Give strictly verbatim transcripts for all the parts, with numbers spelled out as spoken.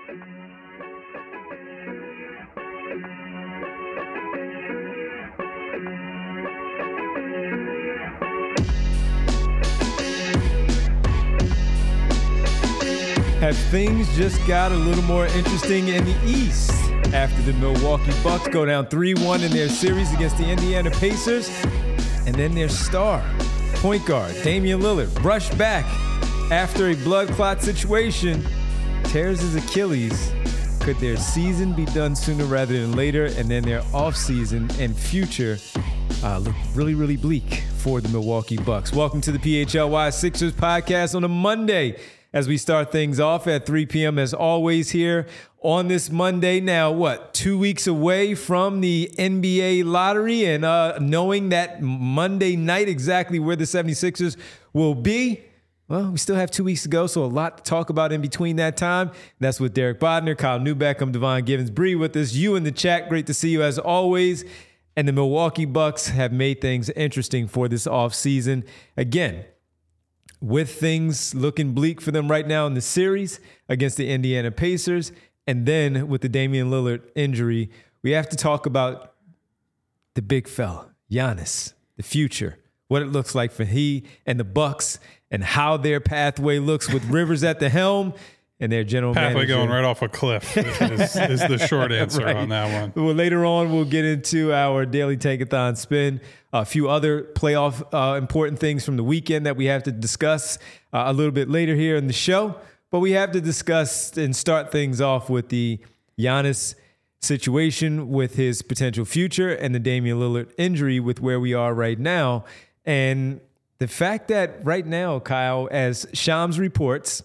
Have things just got a little more interesting in the East after the Milwaukee Bucks go down three one in their series against the Indiana Pacers, and then their star, point guard Damian Lillard, rushed back after a blood clot situation, tears his Achilles. Could their season be done sooner rather than later, and then their offseason and future uh, look really, really bleak for the Milwaukee Bucks? Welcome to the P H L Y Sixers podcast on a Monday, as we start things off at three p.m. as always here on this Monday. Now, what, two weeks away from the N B A lottery, and uh, knowing that Monday night exactly where the seventy-sixers will be, well, we still have two weeks to go, so a lot to talk about in between that time. That's with Derek Bodner, Kyle Newbeck, I'm Devon Givens. Bree with us, you in the chat, great to see you as always. And the Milwaukee Bucks have made things interesting for this offseason. Again, with things looking bleak for them right now in the series against the Indiana Pacers, and then with the Damian Lillard injury, we have to talk about the big fella, Giannis, the future, what it looks like for he and the Bucks, and how their pathway looks with Rivers at the helm and their general pathway manager. going right off a cliff is, is the short answer right on that one. Well, later on, we'll get into our daily Tankathon spin. A few other playoff uh, important things from the weekend that we have to discuss uh, a little bit later here in the show. But we have to discuss and start things off with the Giannis situation, with his potential future, and the Damian Lillard injury with where we are right now. And the fact that right now, Kyle, as Shams reports,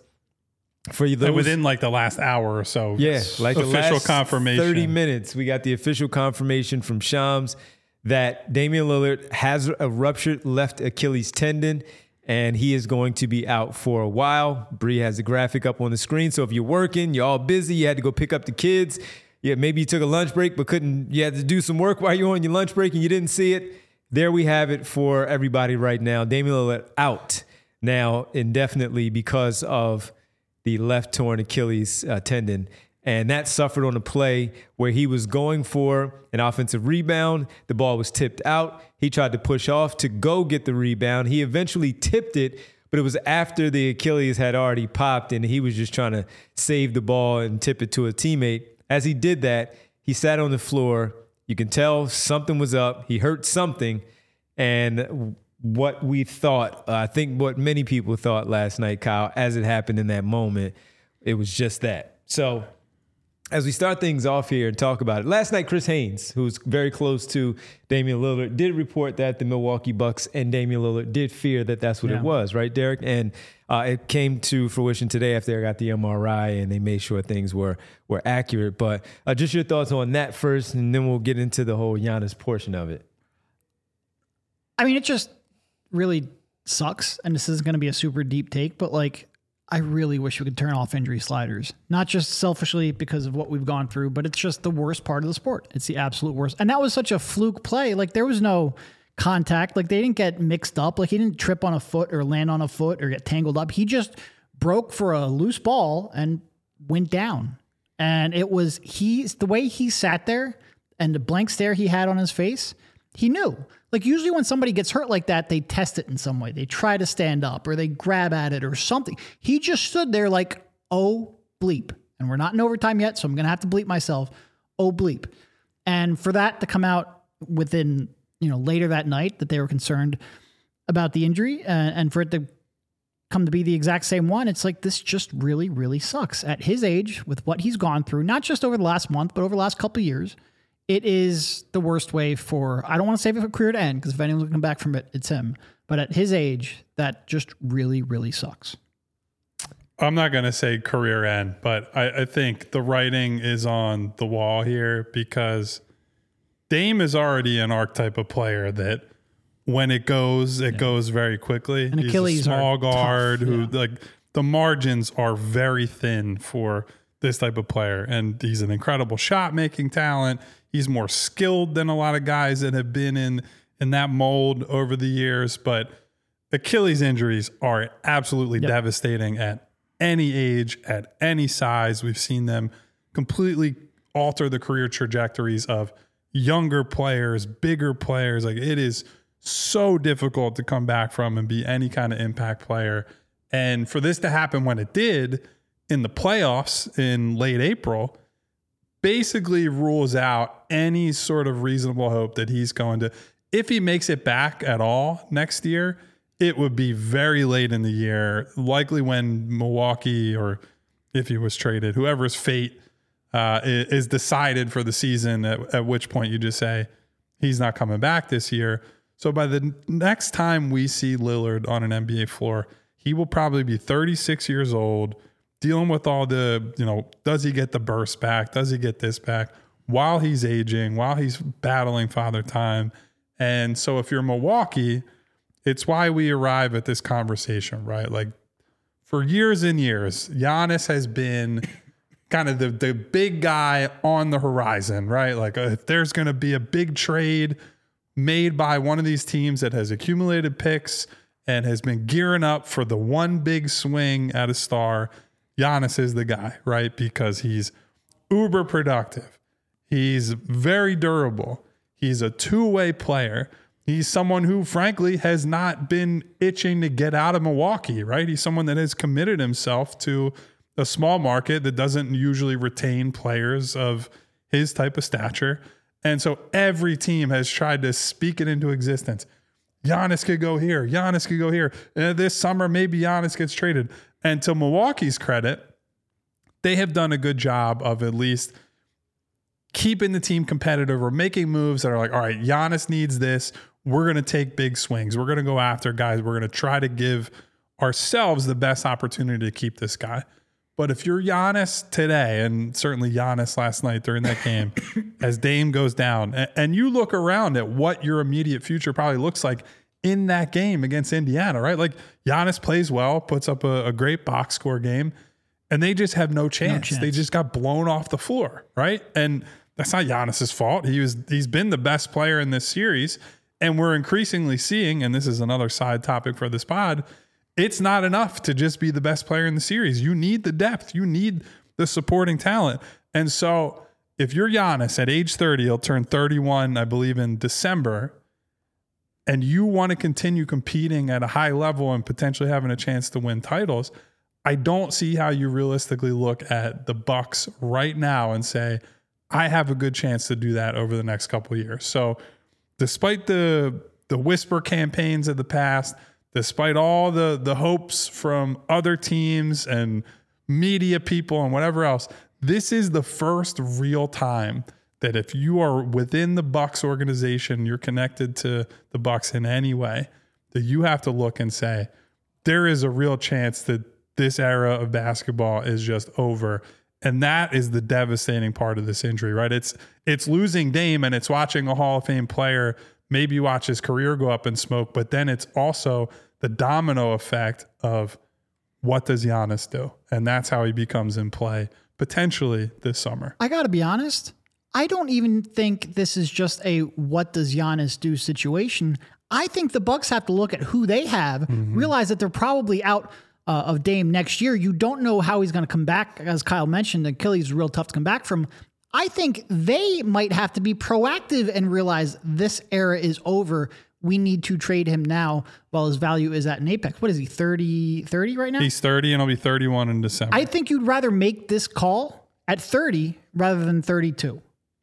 for those, and within like the last hour or so, yeah, like official the last confirmation, thirty minutes, we got the official confirmation from Shams that Damian Lillard has a ruptured left Achilles tendon, and he is going to be out for a while. Bree has the graphic up on the screen, so if you're working, you're all busy, you had to go pick up the kids, yeah, maybe you took a lunch break but couldn't, you had to do some work while you were on your lunch break and you didn't see it. There we have it for everybody right now. Damian Lillard out now indefinitely because of the left torn Achilles uh, tendon. And that suffered on a play where he was going for an offensive rebound. The ball was tipped out. He tried to push off to go get the rebound. He eventually tipped it, but it was after the Achilles had already popped, and he was just trying to save the ball and tip it to a teammate. As he did that, he sat on the floor. You can tell something was up. He hurt something. And what we thought, uh, I think what many people thought last night, Kyle, as it happened in that moment, it was just that. So as we start things off here and talk about it, last night, Chris Haynes, who's very close to Damian Lillard, did report that the Milwaukee Bucks and Damian Lillard did fear that that's what yeah. it was, right, Derek? And uh, it came to fruition today after they got the M R I and they made sure things were were accurate. But uh, just your thoughts on that first, and then we'll get into the whole Giannis portion of it. I mean, it just really sucks, and this is going to be a super deep take, but like, I really wish we could turn off injury sliders, not just selfishly because of what we've gone through, but it's just the worst part of the sport. It's the absolute worst. And that was such a fluke play. Like, there was no contact. Like, they didn't get mixed up. Like, he didn't trip on a foot or land on a foot or get tangled up. He just broke for a loose ball and went down. And it was, he, the way he sat there and the blank stare he had on his face, he knew. Like, usually when somebody gets hurt like that, they test it in some way. They try to stand up or they grab at it or something. He just stood there like, oh, bleep. And we're not in overtime yet, so I'm going to have to bleep myself. Oh, bleep. And for that to come out within, you know, later that night that they were concerned about the injury, uh, and for it to come to be the exact same one, it's like, this just really, really sucks. At his age, with what he's gone through, not just over the last month, but over the last couple of years, it is the worst way for, I don't want to save it for career to end, because if anyone's going to come back from it, it's him. But at his age, that just really, really sucks. I'm not going to say career end, but I, I think the writing is on the wall here, because Dame is already an archetype of player that when it goes, it yeah. goes very quickly. And He's Achilles a small guard tough, who yeah. like the margins are very thin for this type of player. And he's an incredible shot making talent. He's more skilled than a lot of guys that have been in, in that mold over the years, but Achilles injuries are absolutely yep. devastating at any age, at any size. We've seen them completely alter the career trajectories of younger players, bigger players. Like, it is so difficult to come back from and be any kind of impact player. And for this to happen when it did in the playoffs in late April, basically rules out any sort of reasonable hope that he's going to, if he makes it back at all next year, it would be very late in the year, likely when Milwaukee, or if he was traded, whoever's fate uh, is decided for the season, at, at which point you just say, he's not coming back this year. So by the next time we see Lillard on an N B A floor, he will probably be thirty-six years old, dealing with all the, you know, does he get the burst back? Does he get this back? While he's aging, while he's battling father time. And so if you're Milwaukee, it's why we arrive at this conversation, right? Like, for years and years, Giannis has been kind of the, the big guy on the horizon, right? Like, uh, if there's going to be a big trade made by one of these teams that has accumulated picks and has been gearing up for the one big swing at a star, Giannis is the guy, right? Because he's uber productive. He's very durable. He's a two-way player. He's someone who, frankly, has not been itching to get out of Milwaukee, right? He's someone that has committed himself to a small market that doesn't usually retain players of his type of stature. And so every team has tried to speak it into existence. Giannis could go here. Giannis could go here. And this summer, maybe Giannis gets traded. And to Milwaukee's credit, they have done a good job of at least keeping the team competitive or making moves that are like, all right, Giannis needs this. We're going to take big swings. We're going to go after guys. We're going to try to give ourselves the best opportunity to keep this guy. But if you're Giannis today, and certainly Giannis last night during that game, as Dame goes down, and you look around at what your immediate future probably looks like in that game against Indiana, right? Like, Giannis plays well, puts up a, a great box score game, and they just have no chance. no chance. They just got blown off the floor, right? And that's not Giannis's fault. He was, he's been the best player in this series, and we're increasingly seeing, and this is another side topic for this pod, it's not enough to just be the best player in the series. You need the depth. You need the supporting talent. And so if you're Giannis at age thirty, he'll turn thirty-one, I believe, in December, and you want to continue competing at a high level and potentially having a chance to win titles, I don't see how you realistically look at the Bucks right now and say, I have a good chance to do that over the next couple of years. So despite the the whisper campaigns of the past, despite all the, the hopes from other teams and media people and whatever else, this is the first real time that if you are within the Bucks organization, you're connected to the Bucks in any way, that you have to look and say, there is a real chance that this era of basketball is just over. And that is the devastating part of this injury, right? It's it's losing Dame, and it's watching a Hall of Fame player maybe watch his career go up in smoke, but then it's also the domino effect of what does Giannis do? And that's how he becomes in play potentially this summer. I got to be honest. I don't even think this is just a what does Giannis do situation. I think the Bucks have to look at who they have, mm-hmm. realize that they're probably out uh, of Dame next year. You don't know how he's going to come back. As Kyle mentioned, Achilles is real tough to come back from. I think they might have to be proactive and realize this era is over. We need to trade him now while his value is at an apex. What is he, thirty, thirty right now? He's thirty, and he'll be thirty-one in December. I think you'd rather make this call at thirty rather than thirty-two.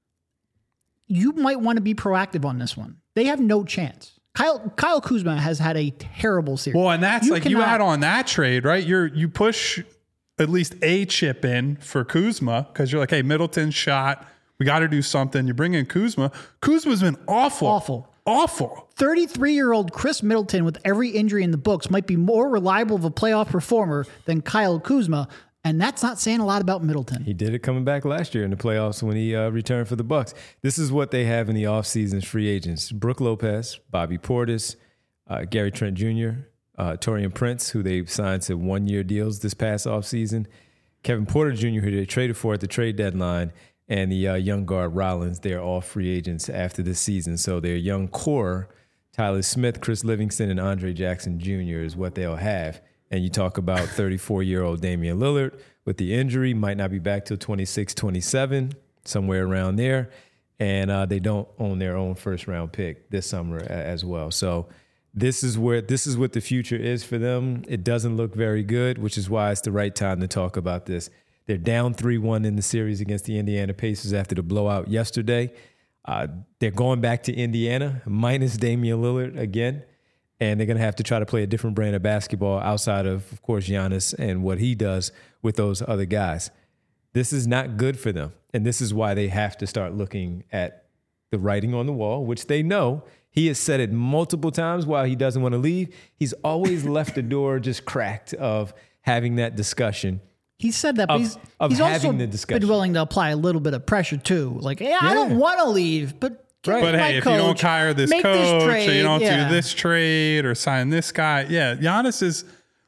You might want to be proactive on this one. They have no chance. Kyle Kyle Kuzma has had a terrible series. Well, and that's you like cannot, you add on that trade, right? You're you push at least a chip in for Kuzma because you're like, hey, Middleton's shot. We got to do something. You bring in Kuzma. Kuzma's been awful. Awful. Awful. thirty-three-year-old Chris Middleton with every injury in the books might be more reliable of a playoff performer than Kyle Kuzma, and that's not saying a lot about Middleton. He did it coming back last year in the playoffs when he uh, returned for the Bucks. This is what they have in the offseason's free agents. Brook Lopez, Bobby Portis, uh, Gary Trent Junior, uh, Taurean Prince, who they signed to one-year deals this past offseason, Kevin Porter Junior, who they traded for at the trade deadline, and the uh, young guard Rollins. They're all free agents after this season. So their young core, Tyler Smith, Chris Livingston, and Andre Jackson Junior is what they'll have. And you talk about thirty-four-year-old Damian Lillard with the injury, might not be back till twenty-six, twenty-seven, somewhere around there. And uh, they don't own their own first-round pick this summer a- as well. So this is where this is what the future is for them. It doesn't look very good, which is why it's the right time to talk about this. They're down three one in the series against the Indiana Pacers after the blowout yesterday. Uh, they're going back to Indiana, minus Damian Lillard again. And they're going to have to try to play a different brand of basketball outside of, of course, Giannis and what he does with those other guys. This is not good for them. And this is why they have to start looking at the writing on the wall, which they know. He has said it multiple times while he doesn't want to leave. He's always left the door just cracked of having that discussion. He said that, but Of- he's, of he's also having the discussion. been willing to apply a little bit of pressure too. Like, hey, I Yeah. don't want to leave, but give Right. me But my hey, if coach, you don't hire this make coach this or trade, you don't yeah. do this trade or sign this guy, yeah, Giannis is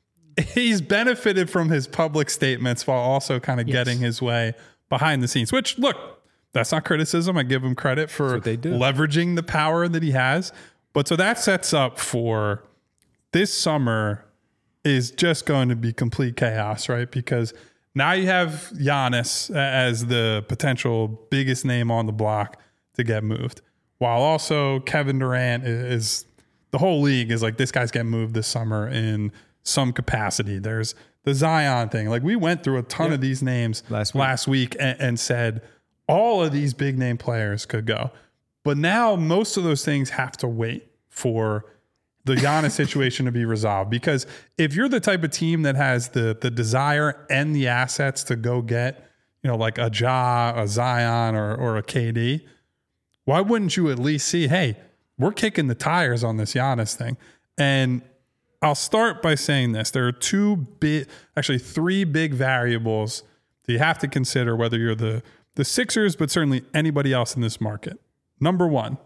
he's benefited from his public statements while also kind of Yes. getting his way behind the scenes. Which, look, that's not criticism. I give him credit for what they do. leveraging the power that he has. But so that sets up for this summer is just going to be complete chaos, right? Because now you have Giannis as the potential biggest name on the block to get moved, while also Kevin Durant is, the whole league is like, this guy's getting moved this summer in some capacity. There's the Zion thing. Like, we went through a ton Yeah. of these names Last week. last week and, and said all of these big name players could go. But now most of those things have to wait for the Giannis situation to be resolved. Because if you're the type of team that has the the desire and the assets to go get, you know, like a Ja, a Zion, or or a K D, why wouldn't you at least see, hey, we're kicking the tires on this Giannis thing? And I'll start by saying this. There are two big, actually three big variables that you have to consider whether you're the, the Sixers, but certainly anybody else in this market. Number one,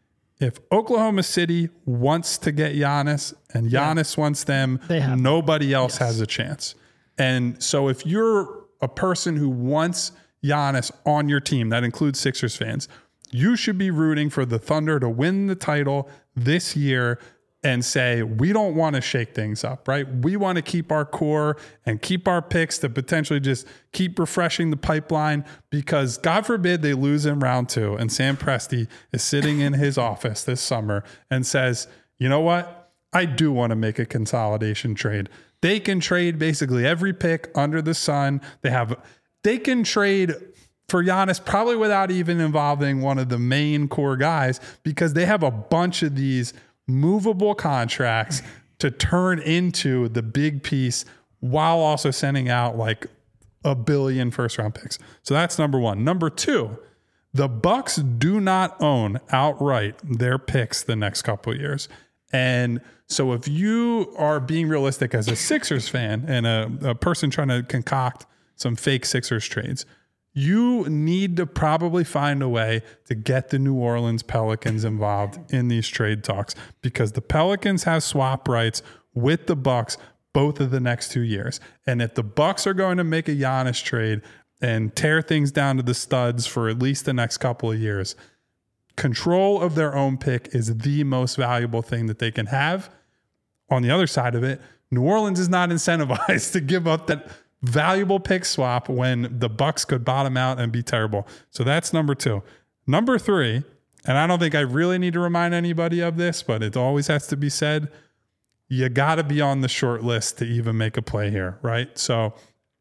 if Oklahoma City wants to get Giannis and Giannis wants them, They have- nobody else Yes. has a chance. And so if you're a person who wants Giannis on your team, that includes Sixers fans, you should be rooting for the Thunder to win the title this year and say, we don't want to shake things up, right? We want to keep our core and keep our picks to potentially just keep refreshing the pipeline, because God forbid they lose in round two and Sam Presti is sitting in his office this summer and says, you know what? I do want to make a consolidation trade. They can trade basically every pick under the sun. They have, they can trade for Giannis probably without even involving one of the main core guys, because they have a bunch of these movable contracts to turn into the big piece while also sending out like a billion first round picks. So that's number one. Number two, the Bucks do not own outright their picks the next couple of years. And so if you are being realistic as a Sixers fan and a, a person trying to concoct some fake Sixers trades, you need to probably find a way to get the New Orleans Pelicans involved in these trade talks, because the Pelicans have swap rights with the Bucks both of the next two years. And if the Bucks are going to make a Giannis trade and tear things down to the studs for at least the next couple of years, control of their own pick is the most valuable thing that they can have. On the other side of it, New Orleans is not incentivized to give up that valuable pick swap when the Bucks could bottom out and be terrible. So that's number two. Number three, and I don't think I really need to remind anybody of this, but it always has to be said, you got to be on the short list to even make a play here, right? So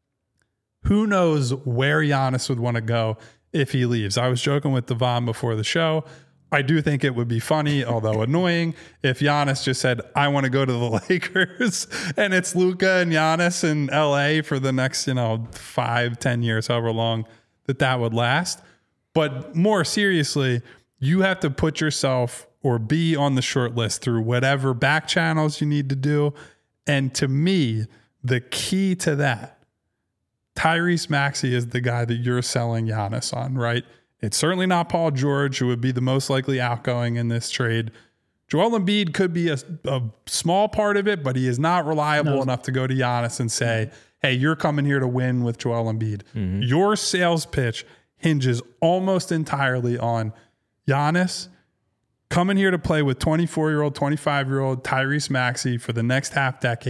who knows where Giannis would want to go if he leaves. I was joking with Devon before the show. I do think it would be funny, although annoying, if Giannis just said, I want to go to the Lakers, and it's Luka and Giannis in L A for the next, you know, five, ten years, however long that that would last. But more seriously, you have to put yourself or be on the short list through whatever back channels you need to do. And to me, the key to that, Tyrese Maxey is the guy that you're selling Giannis on, right? It's certainly not Paul George, who would be the most likely outgoing in this trade. Joel Embiid could be a, a small part of it, but he is not reliable No. enough to go to Giannis and say, hey, you're coming here to win with Joel Embiid. Mm-hmm. Your sales pitch hinges almost entirely on Giannis coming here to play with twenty-four-year-old, twenty-five-year-old Tyrese Maxey for the next half decade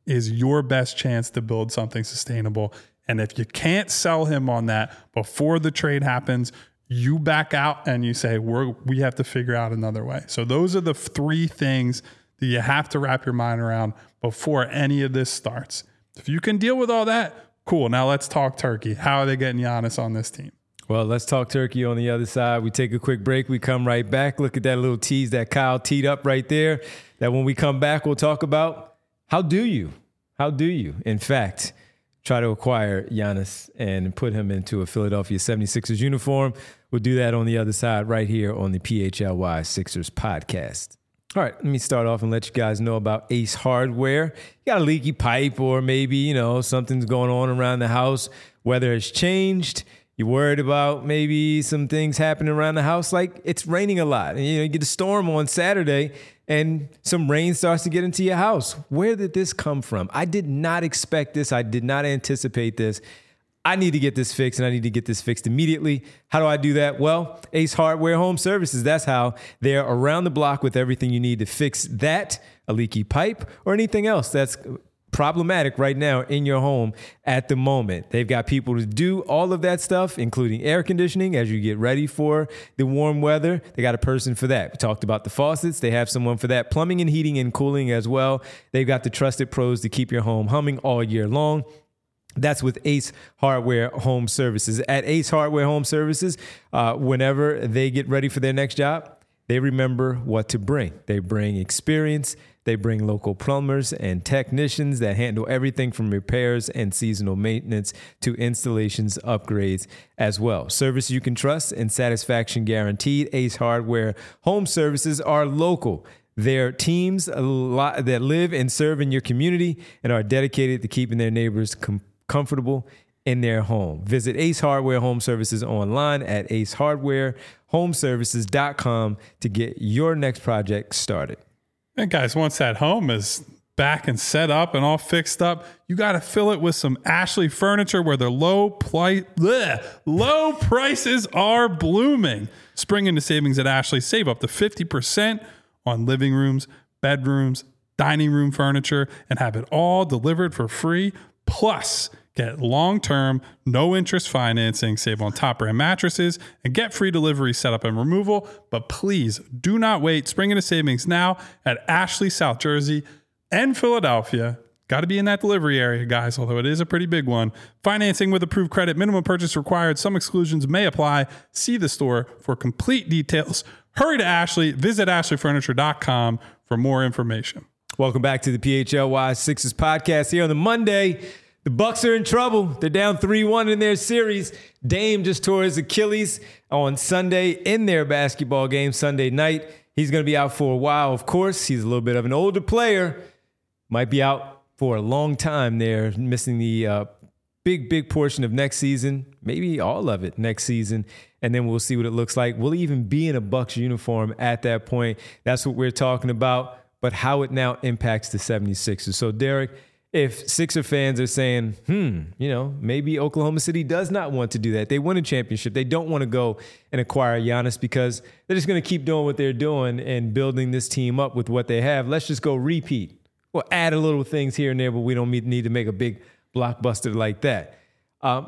is your best chance to build something sustainable. And if you can't sell him on that before the trade happens, you back out and you say, we're, we have to figure out another way. So those are the three things that you have to wrap your mind around before any of this starts. If you can deal with all that, cool. Now let's talk turkey. How are they getting Giannis on this team? Well, let's talk turkey on the other side. We take a quick break. We come right back. Look at that little tease that Kyle teed up right there. That when we come back, we'll talk about how do you, how do you, in fact, try to acquire Giannis and put him into a Philadelphia seventy-sixers uniform. We'll do that on the other side right here on the P H L Y Sixers podcast. All right, let me start off and let you guys know about Ace Hardware. You got a leaky pipe or maybe, you know, something's going on around the house. Weather has changed. You're worried about maybe some things happening around the house, like it's raining a lot. And, you know, you get a storm on Saturday and some rain starts to get into your house. Where did this come from? I did not expect this. I did not anticipate this. I need to get this fixed, and I need to get this fixed immediately. How do I do that? Well, Ace Hardware Home Services. That's how. They're around the block with everything you need to fix that, a leaky pipe, or anything else that's problematic right now in your home at the moment. They've got people to do all of that stuff, including air conditioning as you get ready for the warm weather. They got a person for that. We talked about the faucets. They have someone for that. Plumbing and heating and cooling as well. They've got the trusted pros to keep your home humming all year long. That's with Ace Hardware Home Services. At Ace Hardware Home Services, uh, whenever they get ready for their next job, they remember what to bring. They bring experience. They bring local plumbers and technicians that handle everything from repairs and seasonal maintenance to installations, upgrades as well. Service you can trust and satisfaction guaranteed. Ace Hardware Home Services are local. They're teams a lot that live and serve in your community and are dedicated to keeping their neighbors com- comfortable in their home. Visit Ace Hardware Home Services online at ace hardware home services dot com to get your next project started. And guys, once that home is back and set up and all fixed up, you got to fill it with some Ashley furniture where their low, pli- bleh, low prices are blooming. Spring into savings at Ashley. Save up to fifty percent on living rooms, bedrooms, dining room furniture, and have it all delivered for free. Plus, get long-term, no-interest financing, save on top-brand mattresses, and get free delivery, setup, and removal. But please do not wait. Spring into savings now at Ashley, South Jersey, and Philadelphia. Got to be in that delivery area, guys, although it is a pretty big one. Financing with approved credit, minimum purchase required. Some exclusions may apply. See the store for complete details. Hurry to Ashley. Visit ashley furniture dot com for more information. Welcome back to the P H L Y Sixers podcast here on the Monday. The Bucks are in trouble. They're down three one in their series. Dame just tore his Achilles on Sunday in their basketball game Sunday night. He's going to be out for a while, of course. He's a little bit of an older player. Might be out for a long time there, missing the uh, big, big portion of next season, maybe all of it next season. And then we'll see what it looks like. Will he even be in a Bucks uniform at that point? That's what we're talking about. But how it now impacts the seventy-sixers. So, Derek, if Sixer fans are saying, hmm, you know, maybe Oklahoma City does not want to do that. They win a championship. They don't want to go and acquire Giannis because they're just going to keep doing what they're doing and building this team up with what they have. Let's just go repeat. We'll add a little things here and there, but we don't need to make a big blockbuster like that. Um,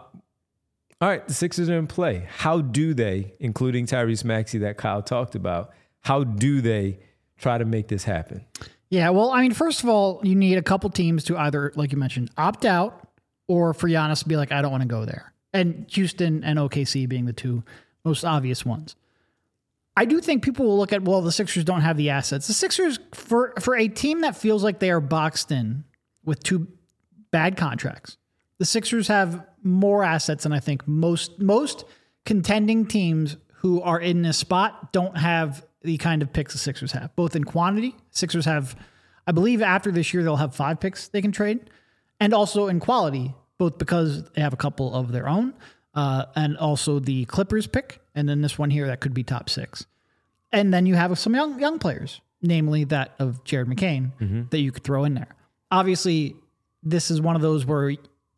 all right, the Sixers are in play. How do they, including Tyrese Maxey that Kyle talked about, how do they try to make this happen? Yeah, well, I mean, first of all, you need a couple teams to either, like you mentioned, opt out or for Giannis to be like, I don't want to go there. And Houston and O K C being the two most obvious ones. I do think people will look at, well, the Sixers don't have the assets. The Sixers, for, for a team that feels like they are boxed in with two bad contracts, the Sixers have more assets than I think most most contending teams who are in this spot don't have the kind of picks the Sixers have, both in quantity. Sixers have, I believe after this year, they'll have five picks they can trade, and also in quality, both because they have a couple of their own, uh, and also the Clippers pick, and then this one here that could be top six. And then you have some young young players, namely that of Jared McCain, mm-hmm. that you could throw in there. Obviously, this is one of those where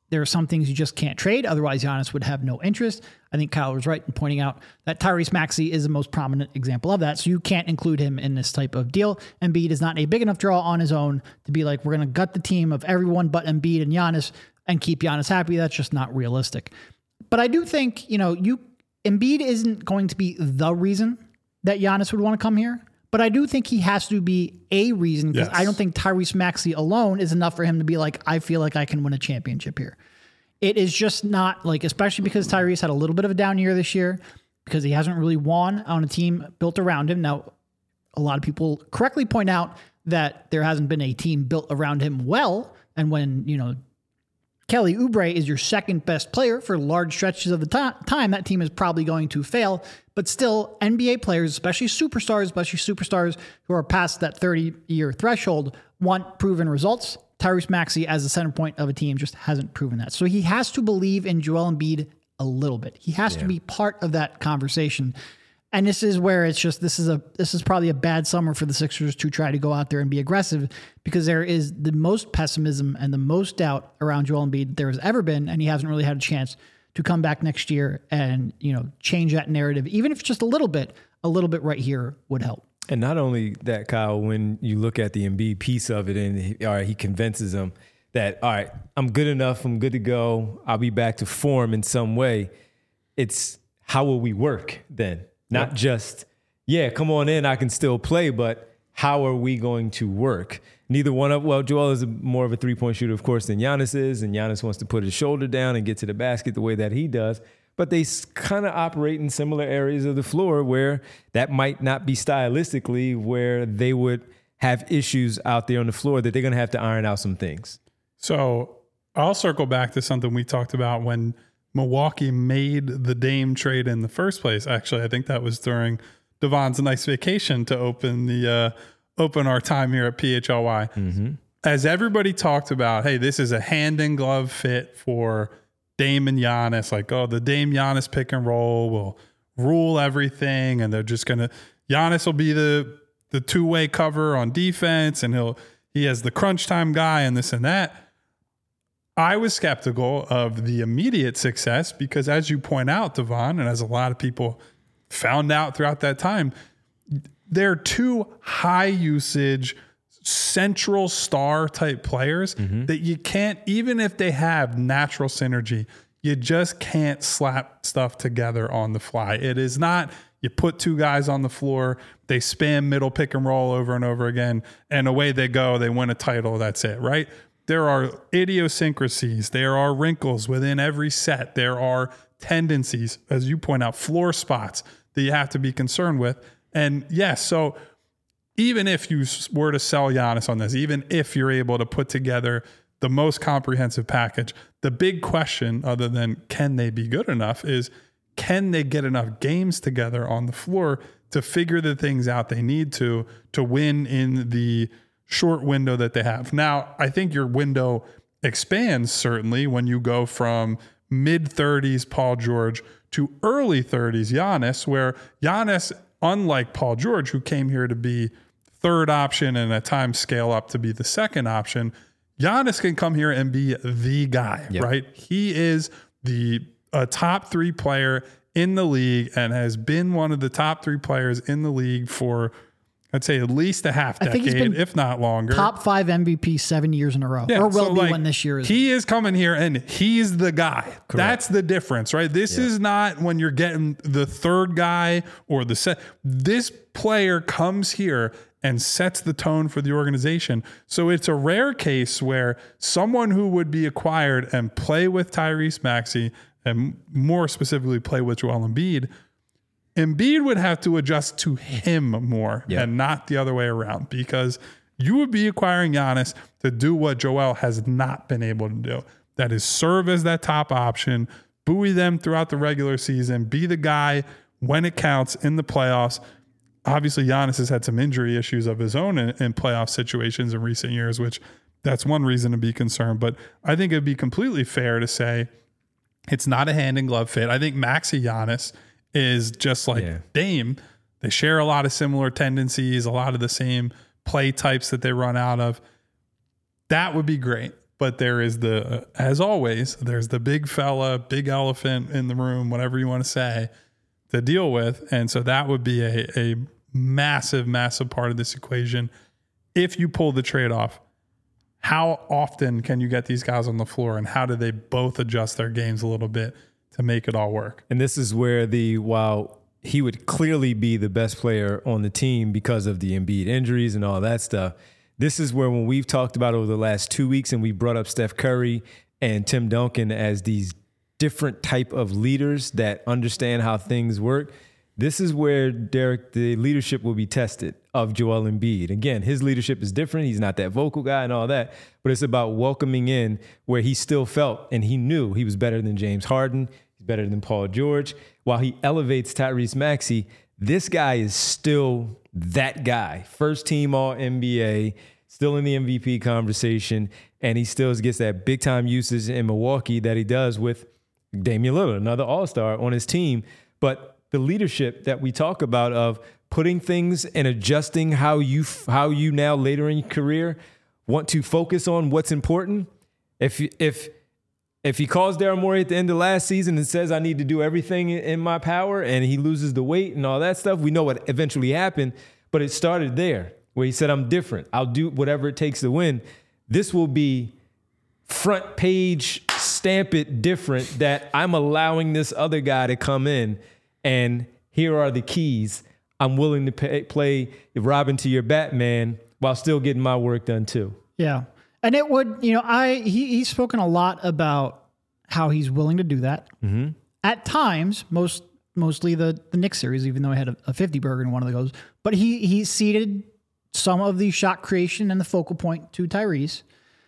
there are some things you just can't trade. Otherwise, Giannis would have no interest. I think Kyle was right in pointing out that Tyrese Maxey is the most prominent example of that. So you can't include him in this type of deal. Embiid is not a big enough draw on his own to be like, we're going to gut the team of everyone but Embiid and Giannis and keep Giannis happy. That's just not realistic. But I do think, you know, you Embiid isn't going to be the reason that Giannis would want to come here. But I do think he has to be a reason, because yes. I don't think Tyrese Maxey alone is enough for him to be like, I feel like I can win a championship here. It is just not like, especially because Tyrese had a little bit of a down year this year because he hasn't really won on a team built around him. Now, a lot of people correctly point out that there hasn't been a team built around him well. And when, you know, Kelly Oubre is your second best player for large stretches of the t- time, that team is probably going to fail. But still, N B A players, especially superstars, especially superstars who are past that thirty-year threshold, want proven results. Tyrese Maxey, as the center point of a team, just hasn't proven that. So he has to believe in Joel Embiid a little bit. He has yeah. to be part of that conversation. And this is where it's just, this is a this is probably a bad summer for the Sixers to try to go out there and be aggressive, because there is the most pessimism and the most doubt around Joel Embiid there has ever been, and he hasn't really had a chance to come back next year and, you know, change that narrative. Even if it's just a little bit, a little bit right here would help. And not only that, Kyle, when you look at the Embiid piece of it, and he, all right, he convinces them that, all right, I'm good enough, I'm good to go, I'll be back to form in some way. It's how will we work then? Not yep. just, yeah, come on in, I can still play, but how are we going to work? Neither one of, well, Joel is a, more of a three-point shooter, of course, than Giannis is, and Giannis wants to put his shoulder down and get to the basket the way that he does. But they kind of operate in similar areas of the floor where that might not be stylistically where they would have issues out there on the floor that they're going to have to iron out some things. So I'll circle back to something we talked about when Milwaukee made the Dame trade in the first place. Actually, I think that was during Devon's nice vacation to open the uh, open our time here at P H L Y. Mm-hmm. As everybody talked about, hey, this is a hand in glove fit for Dame and Giannis. Like, oh, the Dame Giannis pick and roll will rule everything, and they're just gonna Giannis will be the the two way cover on defense, and he'll he has the crunch time guy and this and that. I was skeptical of the immediate success because, as you point out, Devon, and as a lot of people found out throughout that time, they're two high usage, central star type players mm-hmm. that you can't, even if they have natural synergy, you just can't slap stuff together on the fly. It is not, you put two guys on the floor, they spam middle pick and roll over and over again, and away they go, they win a title, that's it, right? There are idiosyncrasies. There are wrinkles within every set. There are tendencies, as you point out, floor spots that you have to be concerned with. And yes, so even if you were to sell Giannis on this, even if you're able to put together the most comprehensive package, the big question, other than can they be good enough, is can they get enough games together on the floor to figure the things out they need to, to win in the short window that they have. Now, I think your window expands certainly when you go from mid thirties Paul George to early thirties Giannis, where Giannis, unlike Paul George, who came here to be third option and at times scale up to be the second option, Giannis can come here and be the guy, yep. right? He is the a top three player in the league and has been one of the top three players in the league for, I'd say, at least a half decade, I think he's been if not longer. Top five M V P seven years in a row. Yeah, or will so be like, one this year. Is he is coming here and he's the guy. Correct. That's the difference, right? This yeah. is not when you're getting the third guy or the set. This player comes here and sets the tone for the organization. So it's a rare case where someone who would be acquired and play with Tyrese Maxey, and more specifically play with Joel Embiid, Embiid would have to adjust to him more yep. and not the other way around, because you would be acquiring Giannis to do what Joel has not been able to do. That is serve as that top option, buoy them throughout the regular season, be the guy when it counts in the playoffs. Obviously, Giannis has had some injury issues of his own in, in playoff situations in recent years, which that's one reason to be concerned. But I think it'd be completely fair to say it's not a hand in glove fit. I think Maxey Giannis is just like yeah. Dame. They share a lot of similar tendencies, a lot of the same play types that they run out of. That would be great. But there is the, uh, as always, there's the big fella, big elephant in the room, whatever you want to say, to deal with. And so that would be a, a massive, massive part of this equation. If you pull the trade off, how often can you get these guys on the floor, and how do they both adjust their games a little bit to make it all work? And this is where the, while he would clearly be the best player on the team because of the Embiid injuries and all that stuff, this is where, when we've talked about over the last two weeks and we brought up Steph Curry and Tim Duncan as these different type of leaders that understand how things work, this is where, Derek, the leadership will be tested of Joel Embiid. Again, his leadership is different. He's not that vocal guy and all that, but it's about welcoming in where he still felt and he knew he was better than James Harden. He's better than Paul George. While he elevates Tyrese Maxey, this guy is still that guy. First team all N B A, still in the M V P conversation, and he still gets that big time usage in Milwaukee that he does with Damian Lillard, another all-star on his team. But the leadership that we talk about of putting things and adjusting how you how you now later in your career want to focus on what's important. If if if he calls Daryl Morey at the end of last season and says, I need to do everything in my power, and he loses the weight and all that stuff, we know what eventually happened, but it started there where he said, I'm different. I'll do whatever it takes to win. This will be front page, stamp it different, that I'm allowing this other guy to come in, and here are the keys. I'm willing to pay, play Robin to your Batman while still getting my work done too. Yeah. And it would, you know, I he, he's spoken a lot about how he's willing to do that. Mm-hmm. At times, most mostly the, the Knicks series, even though I had a, a fifty burger in one of those. But he he ceded some of the shot creation and the focal point to Tyrese.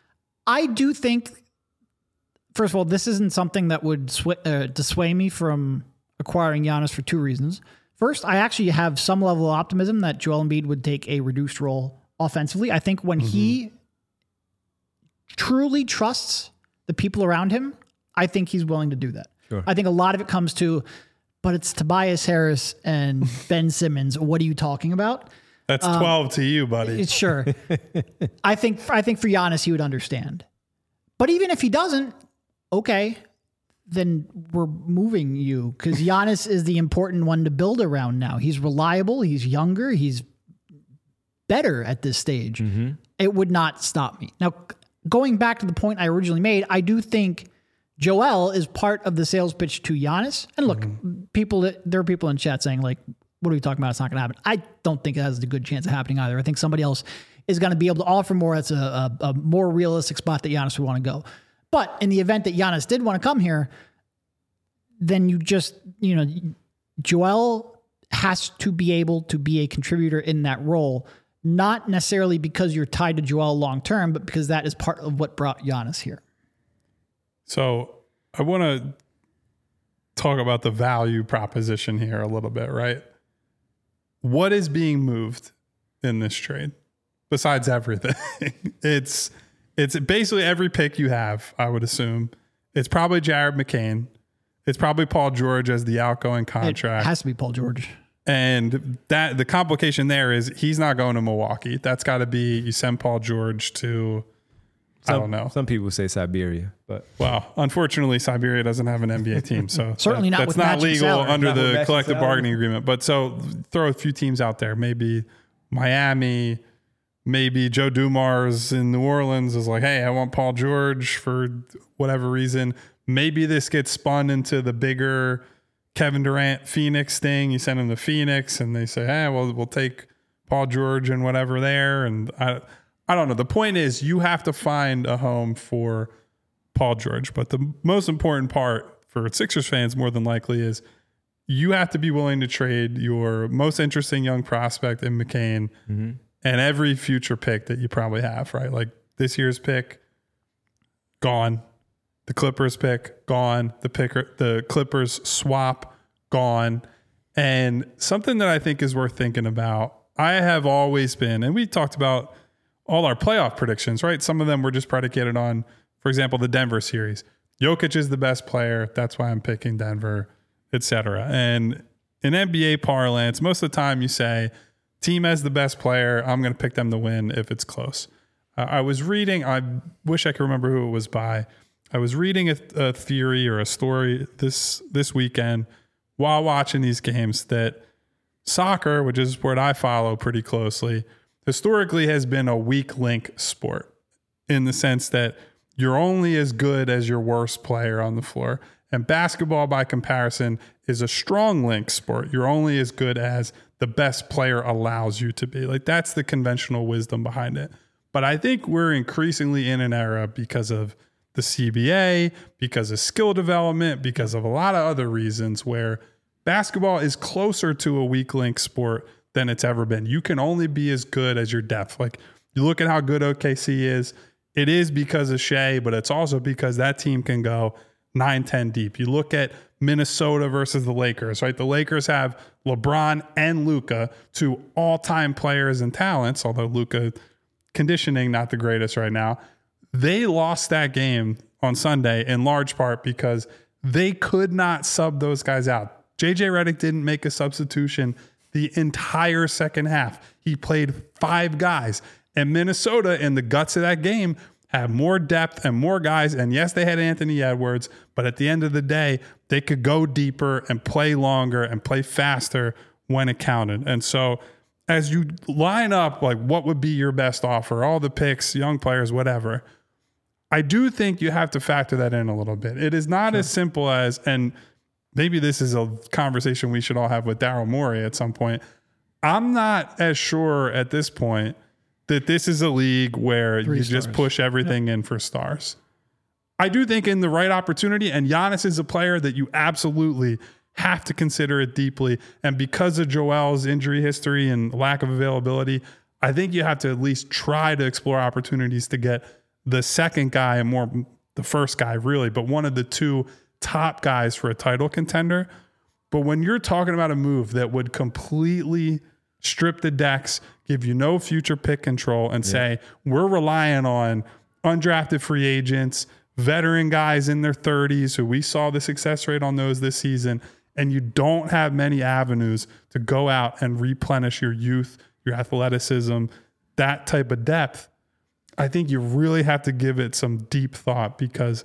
I do think, first of all, this isn't something that would sw- uh, dissuade me from acquiring Giannis for two reasons. First, I actually have some level of optimism that Joel Embiid would take a reduced role offensively. I think when mm-hmm. he truly trusts the people around him, I think he's willing to do that. Sure. I think a lot of it comes to, but it's Tobias Harris and Ben Simmons. What are you talking about? That's twelve um, to you, buddy. Sure. I think I think for Giannis, he would understand. But even if he doesn't, okay, then we're moving you, because Giannis is the important one to build around now. He's reliable. He's younger. He's better at this stage. Mm-hmm. It would not stop me. Now, going back to the point I originally made, I do think Joel is part of the sales pitch to Giannis. And look, mm-hmm. people, there are people in chat saying, like, what are we talking about? It's not going to happen. I don't think it has a good chance of happening either. I think somebody else is going to be able to offer more. That's a, a, a more realistic spot that Giannis would want to go. But in the event that Giannis did want to come here, then you just, you know, Joel has to be able to be a contributor in that role, not necessarily because you're tied to Joel long term, but because that is part of what brought Giannis here. So I want to talk about the value proposition here a little bit, right? What is being moved in this trade besides everything? it's it's basically every pick you have, I would assume. It's probably Jared McCain. It's probably Paul George as the outgoing contract. It has to be Paul George. And that the complication there is he's not going to Milwaukee. That's got to be, you send Paul George to, some, I don't know. Some people say Siberia, but well, unfortunately, Siberia doesn't have an N B A team, so certainly that, not. That's with not legal salary. under not the collective salary. bargaining agreement. But so throw a few teams out there, maybe Miami. Maybe Joe Dumars in New Orleans is like, hey, I want Paul George for whatever reason. Maybe this gets spun into the bigger Kevin Durant Phoenix thing. You send him to Phoenix and they say, hey, well, we'll take Paul George and whatever there. And I, I don't know. The point is you have to find a home for Paul George. But the most important part for Sixers fans more than likely is you have to be willing to trade your most interesting young prospect in McCain mm-hmm. and every future pick that you probably have, right? Like this year's pick, gone. The Clippers pick, gone. The picker, the Clippers swap, gone. And something that I think is worth thinking about, I have always been, and we talked about all our playoff predictions, right? Some of them were just predicated on, for example, the Denver series. Jokic is the best player. That's why I'm picking Denver, et cetera. And in N B A parlance, most of the time you say, team has the best player. I'm going to pick them to win if it's close. Uh, I was reading, I wish I could remember who it was by. I was reading a, a theory or a story this this weekend while watching these games that soccer, which is a sport I follow pretty closely, historically has been a weak link sport in the sense that you're only as good as your worst player on the floor. And basketball, by comparison, is a strong link sport. You're only as good as the best player allows you to be. Like, that's the conventional wisdom behind it. But I think we're increasingly in an era because of the C B A, because of skill development, because of a lot of other reasons where basketball is closer to a weak link sport than it's ever been. You can only be as good as your depth. Like, you look at how good O K C is. It is because of Shea, but it's also because that team can go nine, ten deep. You look at Minnesota versus the Lakers, right? The Lakers have LeBron and Luka, two all-time players and talents, although Luka conditioning not the greatest right now. They lost that game on Sunday in large part because they could not sub those guys out. J J Redick didn't make a substitution the entire second half. He played five guys. And Minnesota, in the guts of that game, had more depth and more guys. And yes, they had Anthony Edwards, but at the end of the day, they could go deeper and play longer and play faster when it counted. And so as you line up, like, what would be your best offer, all the picks, young players, whatever, I do think you have to factor that in a little bit. It is not sure. as simple as, and maybe this is a conversation we should all have with Daryl Morey at some point. I'm not as sure at this point that this is a league where Three you stars. just push everything yeah. in for stars. I do think in the right opportunity, and Giannis is a player that you absolutely have to consider it deeply. And because of Joel's injury history and lack of availability, I think you have to at least try to explore opportunities to get the second guy, and more the first guy really, but one of the two top guys for a title contender. But when you're talking about a move that would completely strip the decks, give you no future pick control, and yeah. say, we're relying on undrafted free agents, veteran guys in their thirties who we saw the success rate on those this season, and you don't have many avenues to go out and replenish your youth, your athleticism, that type of depth, I think you really have to give it some deep thought, because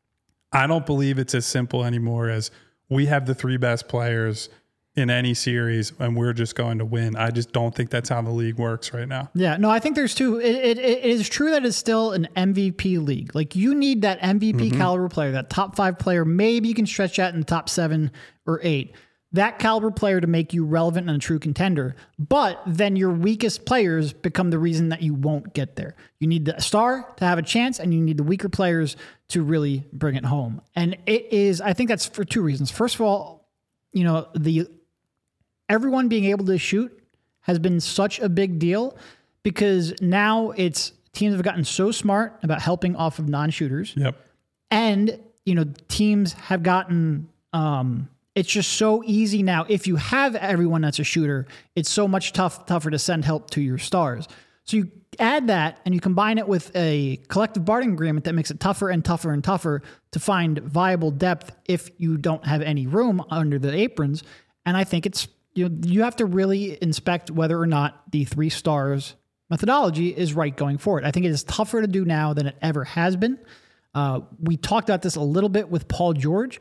I don't believe it's as simple anymore as we have the three best players in any series and we're just going to win. I just don't think that's how the league works right now. Yeah, no, I think there's two. It, it, it is true that it's still an M V P league. Like, you need that M V P mm-hmm. caliber player, that top five player. Maybe you can stretch that in the top seven or eight. That caliber player to make you relevant and a true contender. But then your weakest players become the reason that you won't get there. You need the star to have a chance, and you need the weaker players to really bring it home. And it is, I think that's for two reasons. First of all, you know, the everyone being able to shoot has been such a big deal, because now it's teams have gotten so smart about helping off of non-shooters. Yep. And, you know, teams have gotten, um, it's just so easy now. If you have everyone that's a shooter, it's so much tough, tougher to send help to your stars. So you add that and you combine it with a collective bargaining agreement that makes it tougher and tougher and tougher to find viable depth if you don't have any room under the aprons. And I think it's, you know, you have to really inspect whether or not the three stars methodology is right going forward. I think it is tougher to do now than it ever has been. Uh, we talked about this a little bit with Paul George.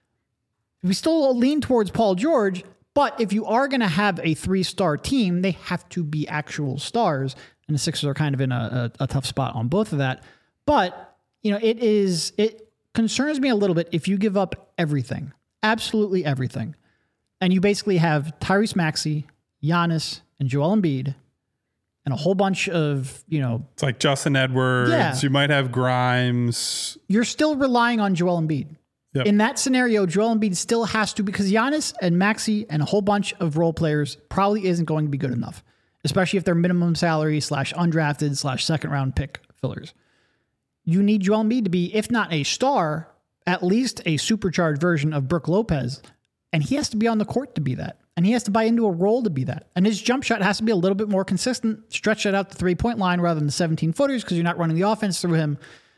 We still lean towards Paul George, but if you are going to have a three-star team, they have to be actual stars. And the Sixers are kind of in a, a, a tough spot on both of that. But, you know, it is, it concerns me a little bit if you give up everything, absolutely everything. And you basically have Tyrese Maxey, Giannis, and Joel Embiid, and a whole bunch of, you know... It's like Justin Edwards. Yeah. You might have Grimes. You're still relying on Joel Embiid. Yep. In that scenario, Joel Embiid still has to, because Giannis and Maxey and a whole bunch of role players probably isn't going to be good enough, especially if they're minimum salary slash undrafted slash second round pick fillers. You need Joel Embiid to be, if not a star, at least a supercharged version of Brook Lopez. And he has to be on the court to be that. And he has to buy into a role to be that. And his jump shot has to be a little bit more consistent, stretch it out the three-point line rather than the seventeen footers, because you're not running the offense through him.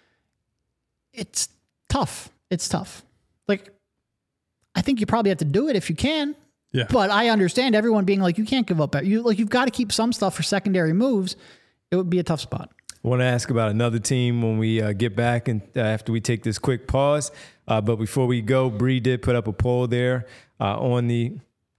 It's tough. It's tough. Like, I think you probably have to do it if you can. Yeah. But I understand everyone being like, you can't give up. You like, you've got to keep some stuff for secondary moves. It would be a tough spot. I want to ask about another team when we uh, get back and uh, after we take this quick pause. Uh, but before we go, Bree did put up a poll there uh, on the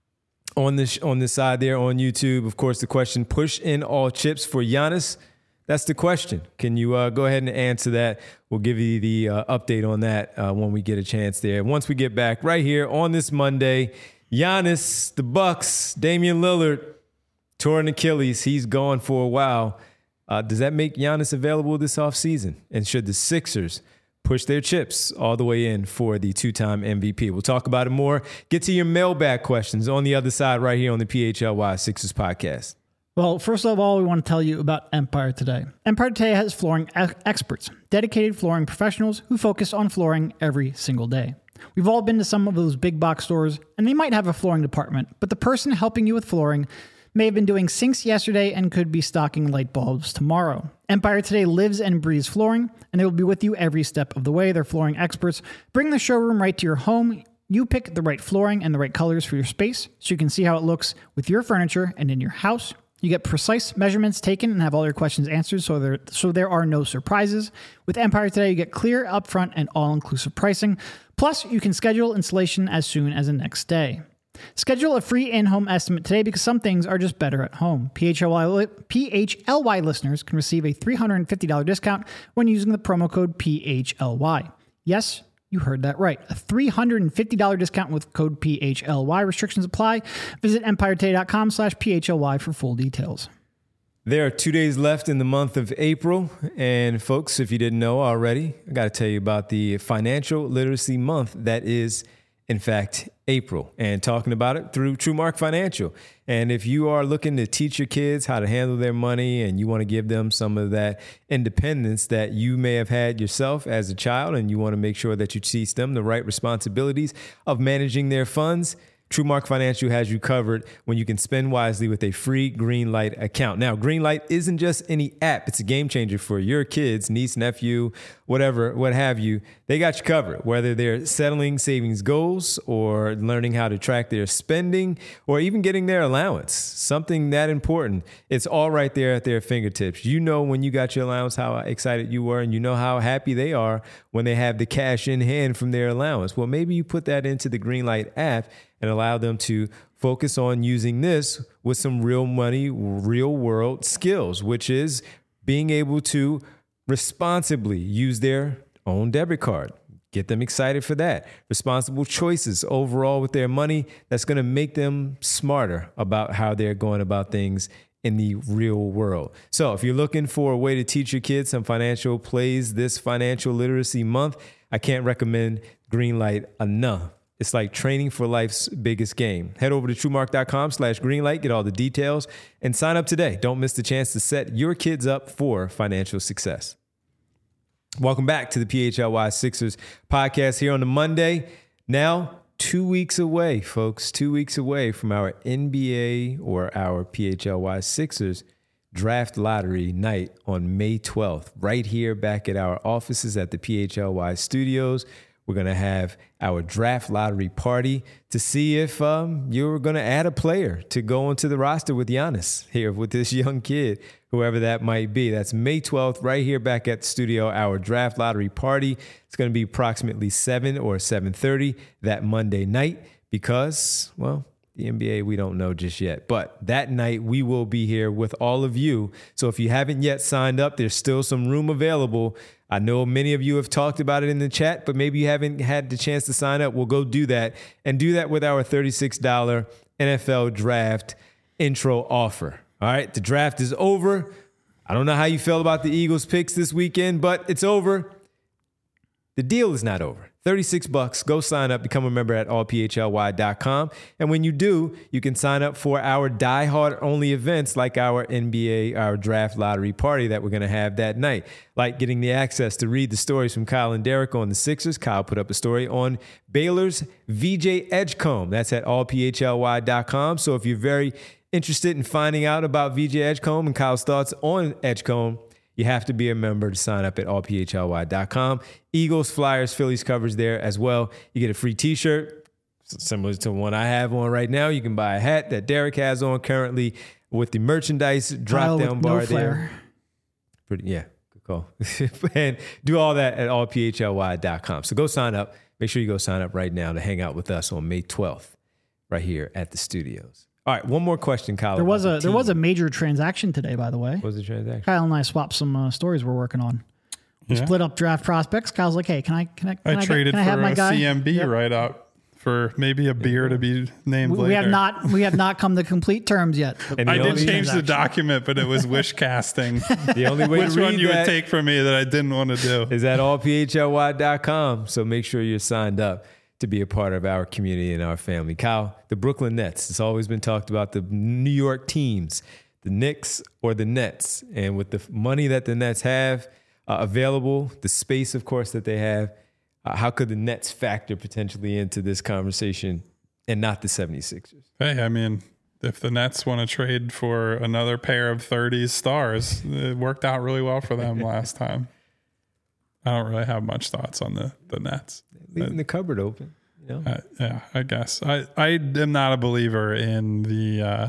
on this on this side there on YouTube. Of course, the question: push in all chips for Giannis. That's the question. Can you uh, go ahead and answer that? We'll give you the uh, update on that uh, when we get a chance there. Once we get back right here on this Monday, Giannis, the Bucks, Damian Lillard, torn Achilles. He's gone for a while. Uh, does that make Giannis available this offseason? And should the Sixers push their chips all the way in for the two-time M V P? We'll talk about it more. Get to your mailbag questions on the other side right here on the P H L Y Sixers podcast. Well, first of all, we want to tell you about Empire Today. Empire Today has flooring ex- experts, dedicated flooring professionals who focus on flooring every single day. We've all been to some of those big box stores, and they might have a flooring department, but the person helping you with flooring may have been doing sinks yesterday and could be stocking light bulbs tomorrow. Empire Today lives and breathes flooring, and they will be with you every step of the way. Their flooring experts bring the showroom right to your home. You pick the right flooring and the right colors for your space so you can see how it looks with your furniture and in your house. You get precise measurements taken and have all your questions answered so there, so there are no surprises. With Empire Today, you get clear, upfront, and all-inclusive pricing. Plus, you can schedule installation as soon as the next day. Schedule a free in-home estimate today because some things are just better at home. P H L Y, li- P H L Y listeners can receive a three hundred fifty dollars discount when using the promo code P H L Y. Yes, you heard that right. A three hundred fifty dollars discount with code P H L Y. Restrictions apply. Visit empiretoday.com slash PHLY for full details. There are two days left in the month of April. And folks, if you didn't know already, I got to tell you about the financial literacy month that is, in fact, April, and talking about it through TrueMark Financial. And if you are looking to teach your kids how to handle their money and you want to give them some of that independence that you may have had yourself as a child, and you want to make sure that you teach them the right responsibilities of managing their funds, TrueMark Financial has you covered when you can spend wisely with a free Greenlight account. Now, Greenlight isn't just any app. It's a game changer for your kids, niece, nephew, whatever, what have you. They got you covered, whether they're settling savings goals or learning how to track their spending or even getting their allowance, something that important. It's all right there at their fingertips. You know when you got your allowance how excited you were, and you know how happy they are when they have the cash in hand from their allowance. Well, maybe you put that into the Greenlight app and allow them to focus on using this with some real money, real world skills, which is being able to responsibly use their own debit card. Get them excited for that. Responsible choices overall with their money that's going to make them smarter about how they're going about things in the real world. So if you're looking for a way to teach your kids some financial plays this financial literacy month, I can't recommend Greenlight enough. It's like training for life's biggest game. Head over to TrueMark.com slash Greenlight, get all the details, and sign up today. Don't miss the chance to set your kids up for financial success. Welcome back to the P H L Y Sixers podcast here on the Monday. Now, two weeks away, folks, two weeks away from our N B A or our P H L Y Sixers draft lottery night on May twelfth, right here back at our offices at the P H L Y studios. We're going to have our draft lottery party to see if um, you're going to add a player to go onto the roster with Giannis here with this young kid, whoever that might be. That's May twelfth, right here back at the studio, our draft lottery party. It's going to be approximately seven or seven thirty that Monday night because, well, the N B A, we don't know just yet. But that night, we will be here with all of you. So if you haven't yet signed up, there's still some room available. I know many of you have talked about it in the chat, but maybe you haven't had the chance to sign up. We'll go do that and do that with our thirty-six dollars N F L draft intro offer. All right, the draft is over. I don't know how you felt about the Eagles picks this weekend, but it's over. The deal is not over. thirty-six bucks. Go sign up, become a member at all p h l y dot com. And when you do, you can sign up for our diehard only events like our N B A, our draft lottery party that we're going to have that night. Like getting the access to read the stories from Kyle and Derek on the Sixers. Kyle put up a story on Baylor's V J Edgecombe. That's at all p h l y dot com. So if you're very interested in finding out about V J Edgecombe and Kyle's thoughts on Edgecombe, you have to be a member to sign up at all p h l y dot com. Eagles, Flyers, Phillies covers there as well. You get a free t-shirt, similar to the one I have on right now. You can buy a hat that Derek has on currently with the merchandise drop-down bar no there. Pretty, yeah, Cool. And do all that at all p h l y dot com. So go sign up. Make sure you go sign up right now to hang out with us on May twelfth right here at the studios. All right, one more question, Kyle. There was a the there was a major transaction today, by the way. What was the transaction? Kyle and I swapped some uh, stories we're working on. We Yeah. split up draft prospects. Kyle's like, "Hey, can I can I can I, I, get- traded can I have for my a guy?" C M B Yep. right up for maybe a beer to be named We, later. we have not we have not come to complete terms yet. but And I the did only change the transaction. document, but it was wish casting. The only way Which to read one you that would take from me that I didn't want to do? is at all p h l y dot com. So make sure you're signed up to be a part of our community and our family. Kyle, the Brooklyn Nets. It's always been talked about the New York teams, the Knicks or the Nets. And with the money that the Nets have uh, available, the space, of course, that they have, uh, how could the Nets factor potentially into this conversation and not the seventy-sixers? Hey, I mean, if the Nets want to trade for another pair of thirties stars, it worked out really well for them last time. I don't really have much thoughts on the, the Nets. Leaving the cupboard open, you know? Uh, yeah, I guess. I, I am not a believer in the, uh,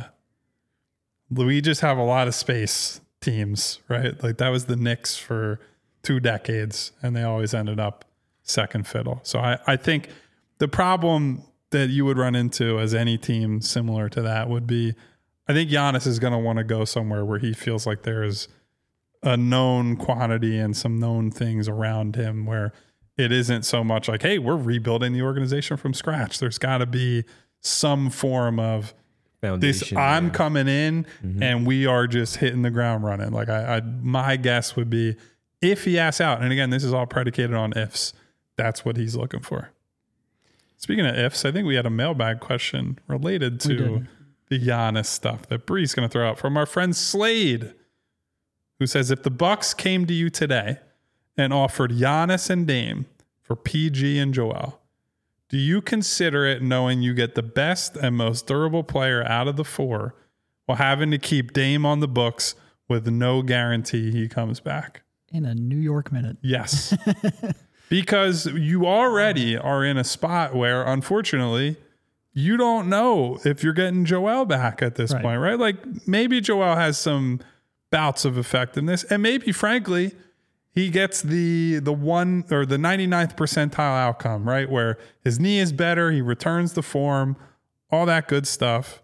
we just have a lot of space teams, right? Like that was the Knicks for two decades and they always ended up second fiddle. So I, I think the problem that you would run into as any team similar to that would be, I think Giannis is going to want to go somewhere where he feels like there's a known quantity and some known things around him where it isn't so much like, hey, we're rebuilding the organization from scratch. There's got to be some form of this. Foundation, I'm yeah. coming in and we are just hitting the ground running. Like I, I, my guess would be if he asks out, and again, this is all predicated on ifs. That's what he's looking for. Speaking of ifs, I think we had a mailbag question related to the Giannis stuff that Bree's going to throw out from our friend Slade, who says, if the Bucks came to you today and offered Giannis and Dame for P G and Joel, do you consider it knowing you get the best and most durable player out of the four while having to keep Dame on the books with no guarantee he comes back? In a New York minute. Yes. Because you already are in a spot where, unfortunately, you don't know if you're getting Joel back at this Right. point, right? Like maybe Joel has some bouts of effectiveness, and maybe, frankly, he gets the the one or the ninety-ninth percentile outcome, right? Where his knee is better, he returns the form, all that good stuff.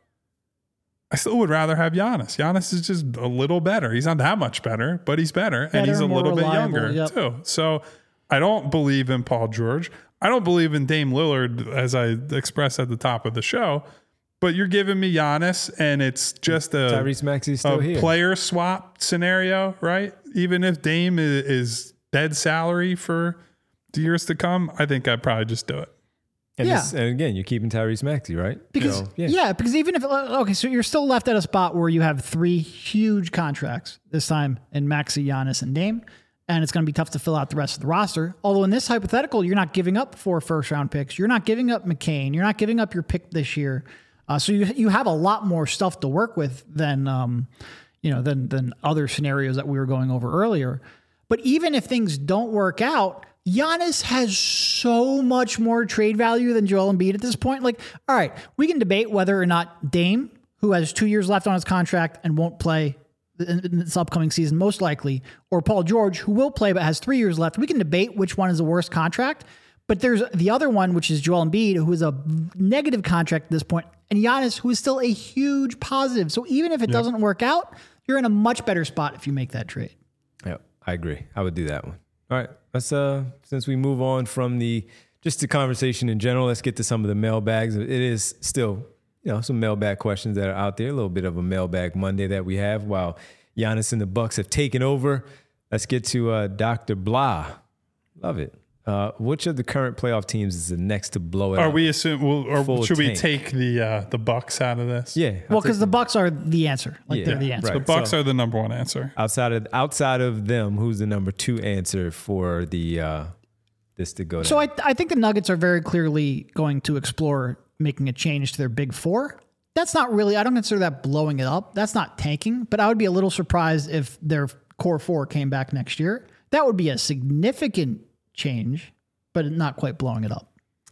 I still would rather have Giannis. Giannis is just a little better. He's not that much better, but he's better, Better, and he's a more little reliable, bit younger yep. too. So I don't believe in Paul George. I don't believe in Dame Lillard, as I expressed at the top of the show. But you're giving me Giannis, and it's just a, Tyrese Maxey's still a here. player swap scenario, right? Even if Dame is, is dead salary for the years to come, I think I'd probably just do it. And, Yeah. this, and again, you're keeping Tyrese Maxey, right? Because So, yeah. because even if okay, so you're still left at a spot where you have three huge contracts this time in Maxey, Giannis, and Dame, and it's going to be tough to fill out the rest of the roster. Although in this hypothetical, you're not giving up four first round picks, you're not giving up McCain, you're not giving up your pick this year, uh, so you you have a lot more stuff to work with than um, you know than than other scenarios that we were going over earlier. But even if things don't work out, Giannis has so much more trade value than Joel Embiid at this point. Like, all right, we can debate whether or not Dame, who has two years left on his contract and won't play in in this upcoming season, most likely, or Paul George, who will play but has three years left. We can debate which one is the worst contract. But there's the other one, which is Joel Embiid, who is a negative contract at this point, and Giannis, who is still a huge positive. So even if it Yep. doesn't work out, you're in a much better spot if you make that trade. Yep, I agree. I would do that one. All right, let's uh, since we move on from the just the conversation in general, let's get to some of the mailbags. It is still, you know, some mailbag questions that are out there. A little bit of a mailbag Monday that we have while Giannis and the Bucks have taken over. Let's get to uh, Doctor Blah. Love it. Uh, which of the current playoff teams is the next to blow it Are up? we assume? Well, or Full should we tank. take the uh, the Bucks out of this? Yeah. I'll Well, take because the them. Bucks are the answer. Like Yeah, they're the answer. right. The Bucks So- are the number one answer. outside of outside of them, who's the number two answer for the uh, this to go down? So I, I think the Nuggets are very clearly going to explore making a change to their big four. That's not really, I don't consider that blowing it up. That's not tanking, but I would be a little surprised if their core four came back next year. That would be a significant change, but not quite blowing it up.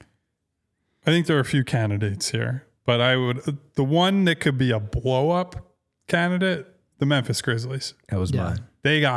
I think there are a few candidates here, but I would the one that could be a blow up candidate, the Memphis Grizzlies. that was Yeah. mine. They got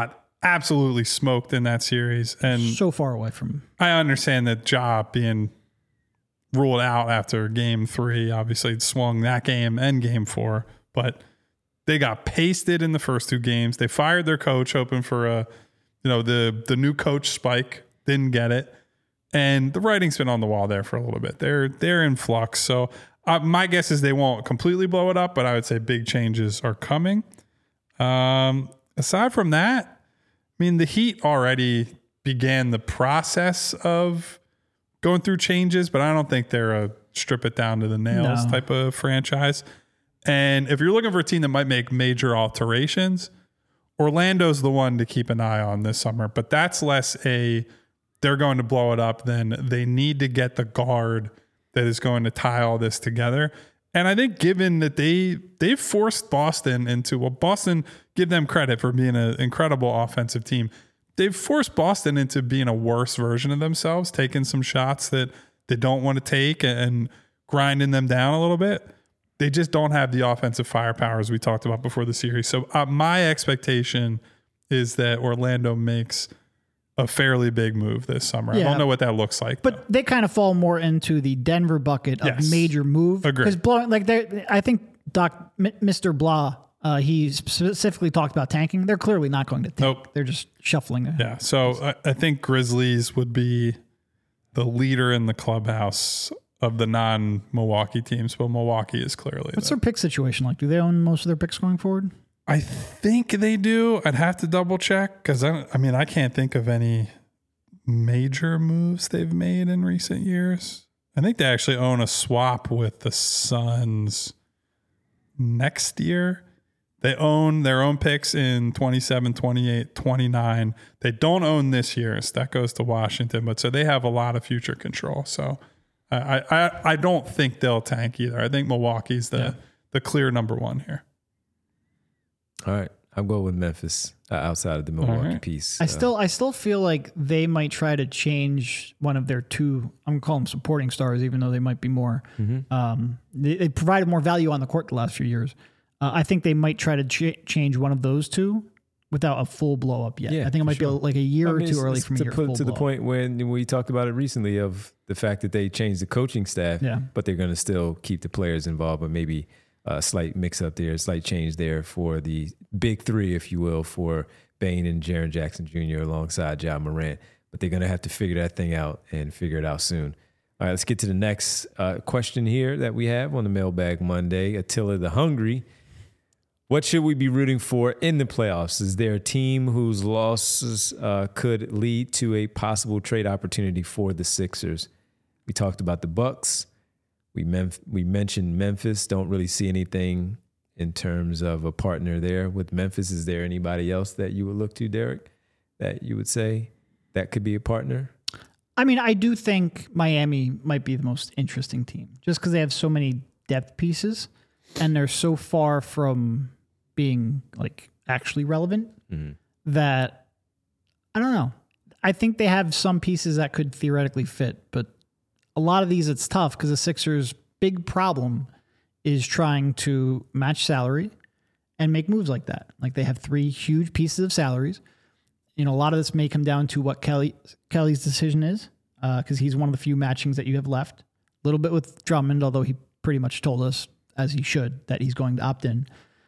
absolutely smoked in that series. And So far away from. I understand that Ja being ruled out after game three, obviously it swung that game and game four, but they got pasted in the first two games. They fired their coach, hoping for a, you know, the the new coach spike. Didn't get it, and the writing's been on the wall there for a little bit. They're they're in flux. So uh, my guess is they won't completely blow it up, but I would say big changes are coming. Um, aside from that, I mean, the Heat already began the process of going through changes, but I don't think they're a strip it down to the nails No. type of franchise. And if you're looking for a team that might make major alterations, Orlando's the one to keep an eye on this summer. But that's less a they're going to blow it up than they need to get the guard that is going to tie all this together. And I think given that they they've forced Boston into, well, Boston, give them credit for being an incredible offensive team. They've forced Boston into being a worse version of themselves, taking some shots that they don't want to take and grinding them down a little bit. They just don't have the offensive firepower as we talked about before the series. So uh, my expectation is that Orlando makes a fairly big move this summer. Yeah. I don't know what that looks like, But though. they kind of fall more into the Denver bucket of Yes. major move. Agreed. Because blowing, like they, I think Doc, M- Mister Blah, uh, he specifically talked about tanking. They're clearly not going to tank. Nope. They're just shuffling it. Yeah. So I, I think Grizzlies would be the leader in the clubhouse of the non-Milwaukee teams, but Milwaukee is clearly What's the, their pick situation like? Do they own most of their picks going forward? I think they do. I'd have to double check because I, I mean, I can't think of any major moves they've made in recent years. I think they actually own a swap with the Suns next year. They own their own picks in twenty-seven, twenty-eight, twenty-nine. They don't own this year's. That goes to Washington, but so they have a lot of future control. So I I, I don't think they'll tank either. I think Milwaukee's the, Yeah. the clear number one here. All right. I'll go with Memphis uh, outside of the Milwaukee right. piece. I Uh, still, I still feel like they might try to change one of their two. I'm gonna call them supporting stars, even though they might be more. Um, they, they provided more value on the court the last few years. Uh, I think they might try to ch- change one of those two without a full blow up yet. Yeah, I think it for might sure. be like a year I or mean, two it's- early it's from to here. put full to the blow-up. point when we talked about it recently of the fact that they changed the coaching staff, Yeah. but they're going to still keep the players involved, but maybe a slight mix up there, a slight change there for the big three, if you will, for Bane and Jaren Jackson Junior alongside Ja Morant. But they're going to have to figure that thing out and figure it out soon. All right, let's get to the next uh, question here that we have on the Mailbag Monday. Attila the Hungry. What should we be rooting for in the playoffs? Is there a team whose losses uh, could lead to a possible trade opportunity for the Sixers? We talked about the Bucks. We mem- we mentioned Memphis. Don't really see anything in terms of a partner there with Memphis. Is there anybody else that you would look to, Derek, that you would say that could be a partner? I mean, I do think Miami might be the most interesting team just because they have so many depth pieces and they're so far from being like actually relevant Mm-hmm. that I don't know. I think they have some pieces that could theoretically fit, but a lot of these it's tough because the Sixers' big problem is trying to match salary and make moves like that. Like they have three huge pieces of salaries. You know, a lot of this may come down to what Kelly Kelly's decision is because he's one of the few matchings that you have left. A little bit with Drummond, although he pretty much told us, as he should, that he's going to opt in.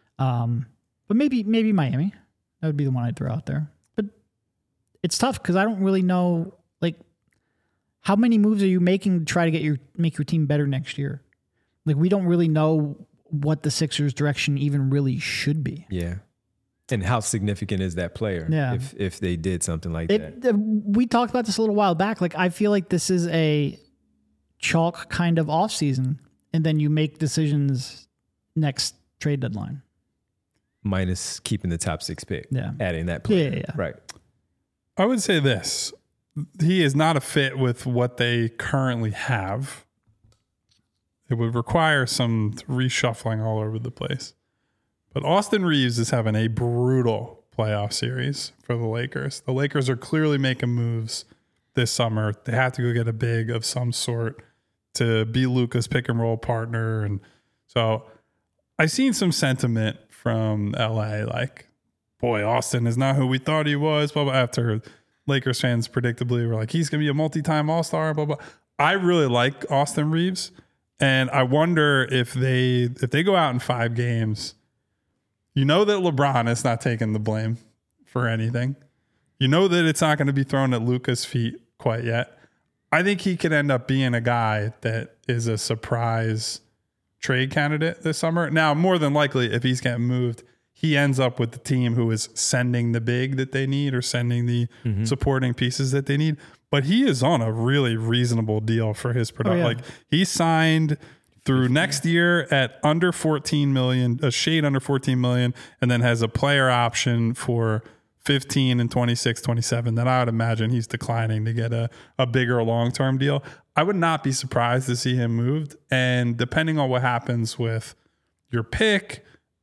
Um, but maybe maybe Miami. That would be the one I'd throw out there. But it's tough because I don't really know, like, how many moves are you making to try to get your make your team better next year? Like, we don't really know what the Sixers' direction even really should be. Yeah. And how significant is that player Yeah. if if they did something like that? It, uh, we talked about this a little while back. Like, I feel like this is a chalk kind of off season, and then you make decisions next trade deadline. Minus keeping the top six pick. Yeah. Adding that player. Yeah, yeah, yeah. Right. I would say this. He is not a fit with what they currently have. It would require some reshuffling all over the place. But Austin Reeves is having a brutal playoff series for the Lakers. The Lakers are clearly making moves this summer. They have to go get a big of some sort to be Luka's pick and roll partner. And so I've seen some sentiment from L A like, boy, Austin is not who we thought he was, blah, blah, after Lakers fans predictably were like, he's going to be a multi-time all-star, blah, blah. I really like Austin Reeves, and I wonder if they if they go out in five games, you know that LeBron is not taking the blame for anything. You know that it's not going to be thrown at Luka's feet quite yet. I think he could end up being a guy that is a surprise trade candidate this summer. Now, more than likely, if he's getting moved, he ends up with the team who is sending the big that they need or sending the mm-hmm. supporting pieces that they need. But he is on a really reasonable deal for his production. Oh, yeah. Like he signed through next year at under fourteen million, a shade under fourteen million, and then has a player option for fifteen and twenty-six, twenty-seven that I would imagine he's declining to get a, a bigger long-term deal. I would not be surprised to see him moved. And depending on what happens with your pick,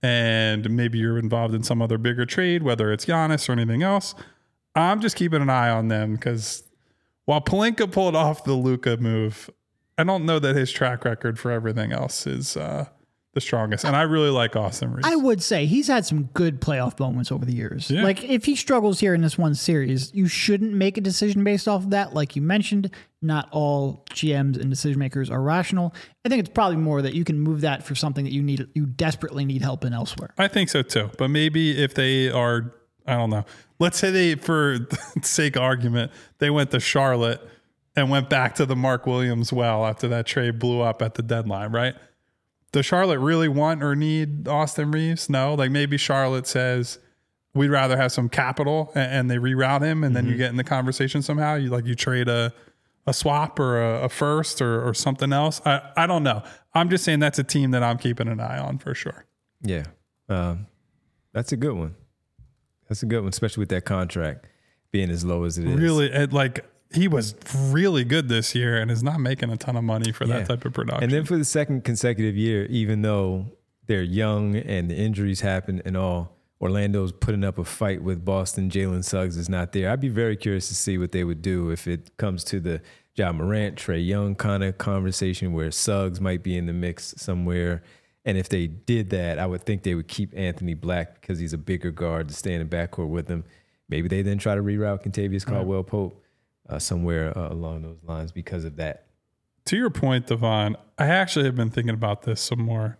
and maybe you're involved in some other bigger trade, whether it's Giannis or anything else, I'm just keeping an eye on them because while Pelinka pulled off the Luka move, I don't know that his track record for everything else is uh, the strongest. And I really like Austin Reeves. I would say he's had some good playoff moments over the years. Yeah. Like if he struggles here in this one series, you shouldn't make a decision based off of that. Like you mentioned, not all G Ms and decision makers are rational. I think it's probably more that you can move that for something that you need, you desperately need help in elsewhere. I think so too. But maybe if they are, I don't know. Let's say they, for the sake of argument, they went to Charlotte and went back to the Mark Williams well after that trade blew up at the deadline, right? Does Charlotte really want or need Austin Reeves? No. Like maybe Charlotte says, we'd rather have some capital and, and they reroute him and mm-hmm. then you get in the conversation somehow. You like you trade a a swap or a, a first or, or something else. I, I don't know. I'm just saying that's a team that I'm keeping an eye on for sure. Yeah. Um, that's a good one. That's a good one, especially with that contract being as low as it is. Really, it, like he was really good this year and is not making a ton of money for yeah. that type of production. And then for the second consecutive year, even though they're young and the injuries happen and all, Orlando's putting up a fight with Boston. Jalen Suggs is not there. I'd be very curious to see what they would do if it comes to the Ja Morant, Trae Young kind of conversation where Suggs might be in the mix somewhere. And if they did that, I would think they would keep Anthony Black because he's a bigger guard to stay in the backcourt with him. Maybe they then try to reroute Kentavious Caldwell-Pope uh, somewhere uh, along those lines because of that. To your point, Devon, I actually have been thinking about this some more.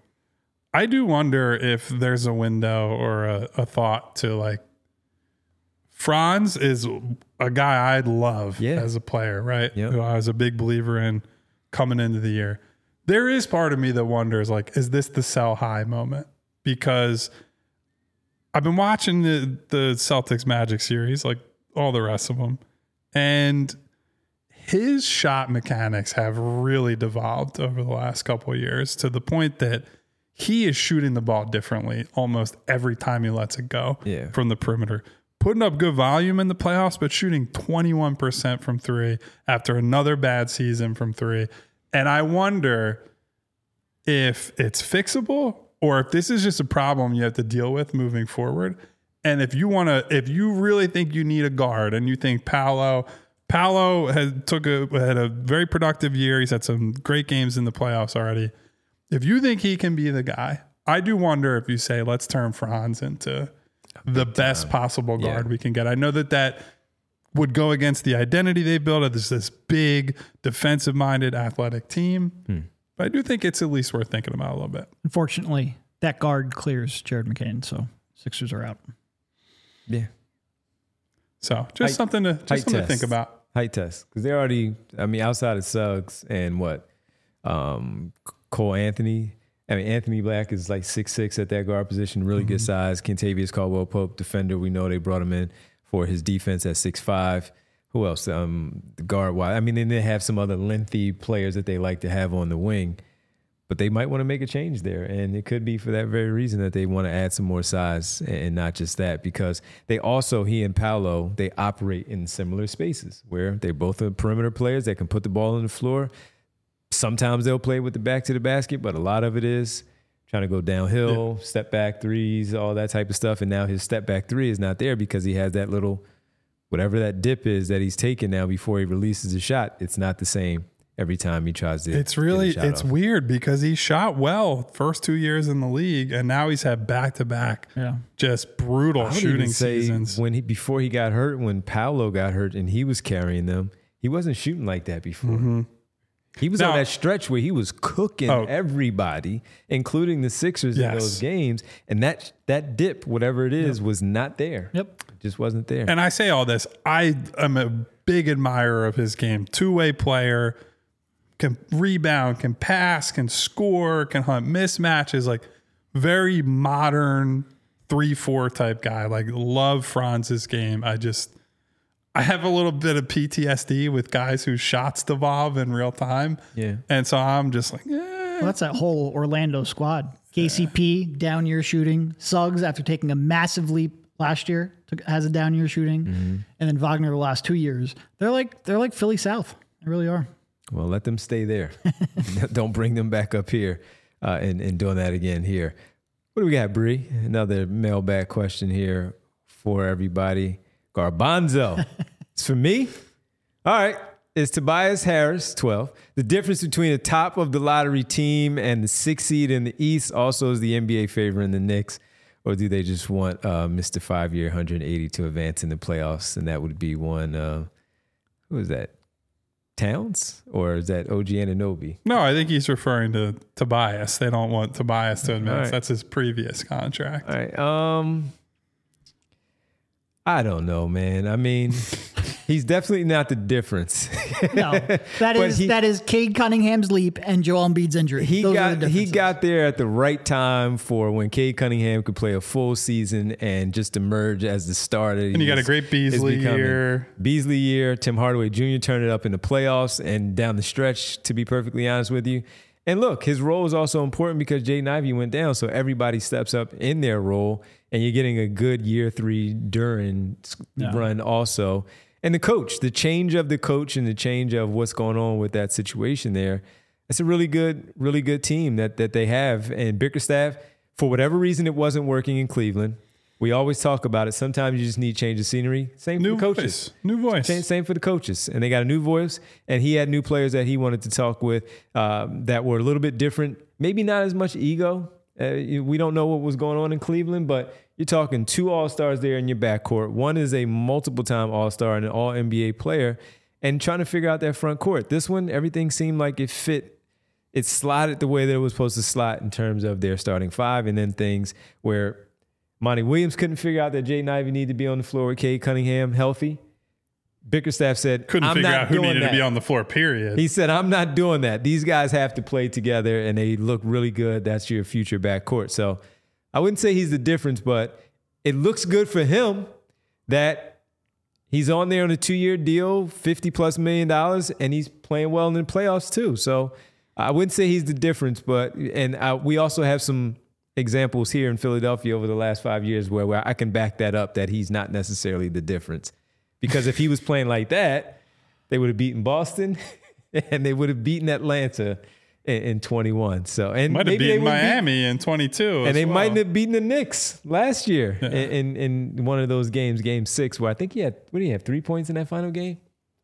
I do wonder if there's a window or a, a thought to like Franz is a guy I'd love yeah. as a player, right? Yep. Who I was a big believer in coming into the year. There is part of me that wonders, like, is this the sell high moment? Because I've been watching the, the Celtics Magic series, like all the rest of them, and his shot mechanics have really devolved over the last couple of years to the point that he is shooting the ball differently almost every time he lets it go yeah. from the perimeter. Putting up good volume in the playoffs, but shooting twenty-one percent from three after another bad season from three. And I wonder if it's fixable or if this is just a problem you have to deal with moving forward. And if you want to, if you really think you need a guard and you think Paolo, Paolo has took a, had a very productive year. He's had some great games in the playoffs already. If you think he can be the guy, I do wonder if you say, let's turn Franz into the best possible guard yeah. we can get. I know that that would go against the identity they built as this big defensive-minded athletic team. Hmm. But I do think it's at least worth thinking about a little bit. Unfortunately, that guard clears Jared McCain, so Sixers are out. Yeah. So just height, something to just something test. to think about. Height test. Because they already, I mean, outside of Suggs and what? Um, Cole Anthony. I mean, Anthony Black is like six six at that guard position, really mm-hmm. good size. Kentavious Caldwell-Pope, defender. We know they brought him in for his defense at six five. Who else? Um, the guard wise. I mean, then they have some other lengthy players that they like to have on the wing, but they might want to make a change there. And it could be for that very reason that they want to add some more size and not just that, because they also, he and Paolo, they operate in similar spaces where they both are perimeter players that can put the ball on the floor. Sometimes they'll play with the back to the basket, but a lot of it is trying to go downhill, yeah. step back threes, all that type of stuff. And now his step back three is not there because he has that little, whatever that dip is that he's taking now before he releases a shot. It's not the same every time he tries to. It's really get a shot it's off. weird because he shot well first two years in the league, and now he's had back to back, Yeah. just brutal I would shooting even say seasons. when he before he got hurt, when Paolo got hurt and he was carrying them, he wasn't shooting like that before. Mm-hmm. He was Now- on that stretch where he was cooking Oh. everybody, including the Sixers in Yes. those games, and that that dip, whatever it is, was not there. Yep. It just wasn't there. And I say all this, I am a big admirer of his game. Two-way player, can rebound, can pass, can score, can hunt mismatches, like very modern three four type guy. Like love Franz's game. I just I have a little bit of P T S D with guys whose shots devolve in real time. Yeah. And so I'm just like, eh. Well, that's that whole Orlando squad. K C P, down year shooting. Suggs, after taking a massive leap last year, took, has a down year shooting. Mm-hmm. And then Wagner the last two years. They're like they're like Philly South. They really are. Well, let them stay there. Don't bring them back up here uh, and, and doing that again here. What do we got, Bree? Another mailbag question here for everybody. Garbanzo. It's for me. All right. It's Tobias Harris, twelve. The difference between the top of the lottery team and the sixth seed in the East also is the N B A favoring the Knicks, or do they just want uh, Mister Five-Year one hundred eighty to advance in the playoffs? And that would be one, uh, who is that? Towns? Or is that O G Anunoby? No, I think he's referring to Tobias. They don't want Tobias to advance. right. That's his previous contract. All right. Um, I don't know, man. I mean, he's definitely not the difference. No, that But is he- that is Cade Cunningham's leap and Joel Embiid's injury. He Those are got the he differences. got there at the right time for when Cade Cunningham could play a full season and just emerge as the starter. And you got a great Beasley year. Beasley year. Tim Hardaway Junior turned it up in the playoffs and down the stretch, to be perfectly honest with you. And look, his role is also important because Jaden Ivey went down, so everybody steps up in their role, and you're getting a good year three Duren Yeah. run also. And the coach, the change of the coach and the change of what's going on with that situation there, it's a really good, really good team that that they have. And Bickerstaff, for whatever reason, it wasn't working in Cleveland. We always talk about it. Sometimes you just need change of scenery. Same New for the coaches. voice. New voice. Same, same for the coaches. And they got a new voice. And he had new players that he wanted to talk with um, that were a little bit different. Maybe not as much ego. Uh, you- we don't know what was going on in Cleveland, but you're talking two All-Stars there in your backcourt. One is a multiple-time All-Star and an All-N B A player, and trying to figure out that front court. This one, everything seemed like it fit. It slotted the way that it was supposed to slot in terms of their starting five, and then things where Monty Williams couldn't figure out that Jaden Ivey needed to be on the floor with Cade Cunningham healthy. Bickerstaff said, Couldn't I'm figure not out who doing needed that. to be on the floor, period. He said, I'm not doing that. These guys have to play together, and they look really good. That's your future backcourt. So I wouldn't say he's the difference, but it looks good for him that he's on there on a two-year deal, fifty plus million dollars, and he's playing well in the playoffs too. So I wouldn't say he's the difference, but and I, we also have some examples here in Philadelphia over the last five years where, where I can back that up, that he's not necessarily the difference. Because if he was playing like that, they would have beaten Boston and they would have beaten Atlanta in, in twenty-one. So and Might have maybe they beaten would beat- Miami in twenty-two. and they well. might have beaten the Knicks last year in, in in one of those games, game six, where I think he had, what did he have, three points in that final game?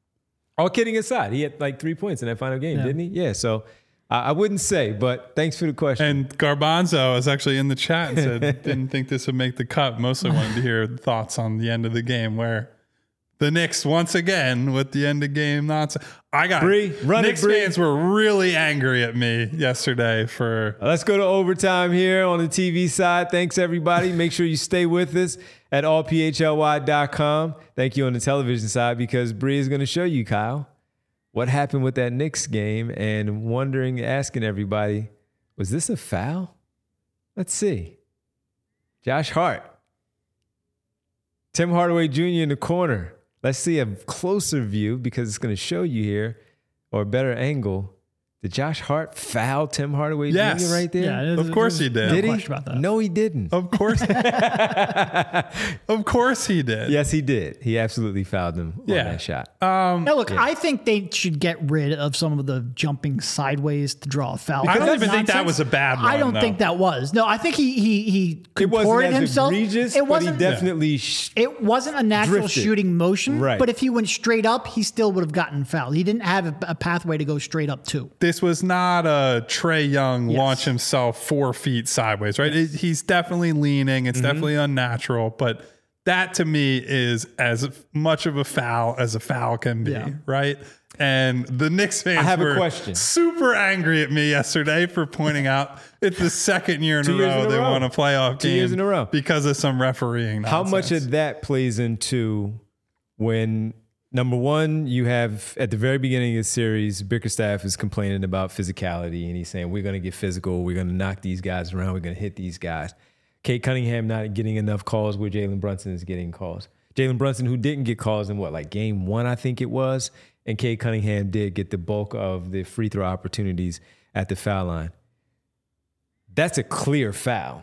All kidding aside, he had like three points in that final game, Yeah. didn't he? Yeah, so I, I wouldn't say, but thanks for the question. And Garbanzo is actually in the chat and said, didn't think this would make the cut. Mostly wanted to hear thoughts on the end of the game where the Knicks, once again, with the end of game nonsense. I got Bree, run it, Knicks Bree. fans were really angry at me yesterday for Let's go to overtime here on the T V side. Thanks, everybody. Make sure you stay with us at all p h l y dot com. Thank you on the television side, because Bree is going to show you, Kyle, what happened with that Knicks game, and wondering, asking everybody, was this a foul? Let's see. Josh Hart. Tim Hardaway Junior in the corner. Let's see a closer view, because it's going to show you here, or a better angle, Did Josh Hart foul Tim Hardaway Yes. Junior right there? Yeah, Of course he did. No Did he? question about that. No, he didn't. Of course. Of course he did. Yes, he did. He absolutely fouled him on Yeah. that shot. Um, Now, look, I think they should get rid of some of the jumping sideways to draw a foul. I don't That's even think that nonsense. was a bad one. I don't though. think that was. No, I think he he he It wasn't contorted as himself. egregious, it but wasn't he definitely... Sh- It wasn't a natural drifted. shooting motion, Right. but if he went straight up, he still would have gotten fouled. He didn't have a, a pathway to go straight up to. This was not a Trey Young Yes. launch himself four feet sideways, right? It, he's definitely leaning. It's definitely unnatural, but that to me is as much of a foul as a foul can be, Yeah. right? And the Knicks fans I have a were question. super angry at me yesterday for pointing out it's the second year in a Two years row in a they row. won a playoff Two game years in a row. because of some refereeing How nonsense. much of that plays into when, number one, you have at the very beginning of the series, Bickerstaff is complaining about physicality and he's saying, we're going to get physical. We're going to knock these guys around. We're going to hit these guys. Kate Cunningham not getting enough calls where Jalen Brunson is getting calls. Jalen Brunson, who didn't get calls in what, like game one, I think it was. And Kate Cunningham did get the bulk of the free throw opportunities at the foul line. That's a clear foul.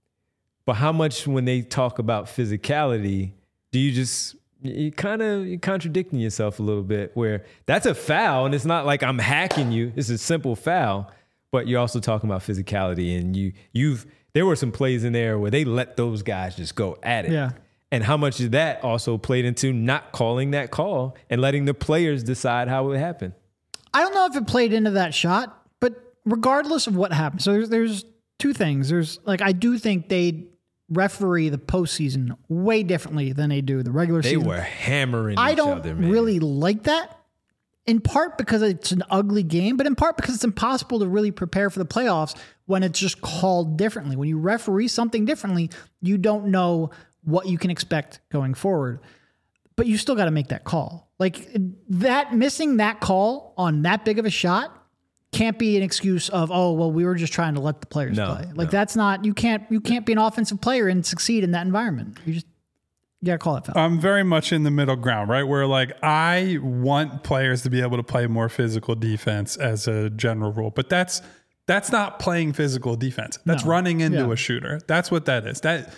But how much when they talk about physicality, do you just, you kind of, you're contradicting yourself a little bit where that's a foul and it's not like I'm hacking you. It's a simple foul, but you're also talking about physicality and you, you've, there were some plays in there where they let those guys just go at it. Yeah. And how much of that also played into not calling that call and letting the players decide how it happened? I don't know if it played into that shot, but regardless of what happened, so there's, there's two things. There's like, I do think they referee the postseason way differently than they do the regular They season. were hammering I each don't other, man. really like that. In part because it's an ugly game, but in part because it's impossible to really prepare for the playoffs when it's just called differently. When you referee something differently, you don't know what you can expect going forward. But you still got to make that call. Like that, missing that call on that big of a shot can't be an excuse of, oh, well, we were just trying to let the players No, play. Like no. that's not, you can't, you can't be an offensive player and succeed in that environment. You just, you got to call it foul. I'm very much in the middle ground, right? Where like I want players to be able to play more physical defense as a general rule, but that's that's not playing physical defense. That's No. running into Yeah. a shooter. That's what that is. That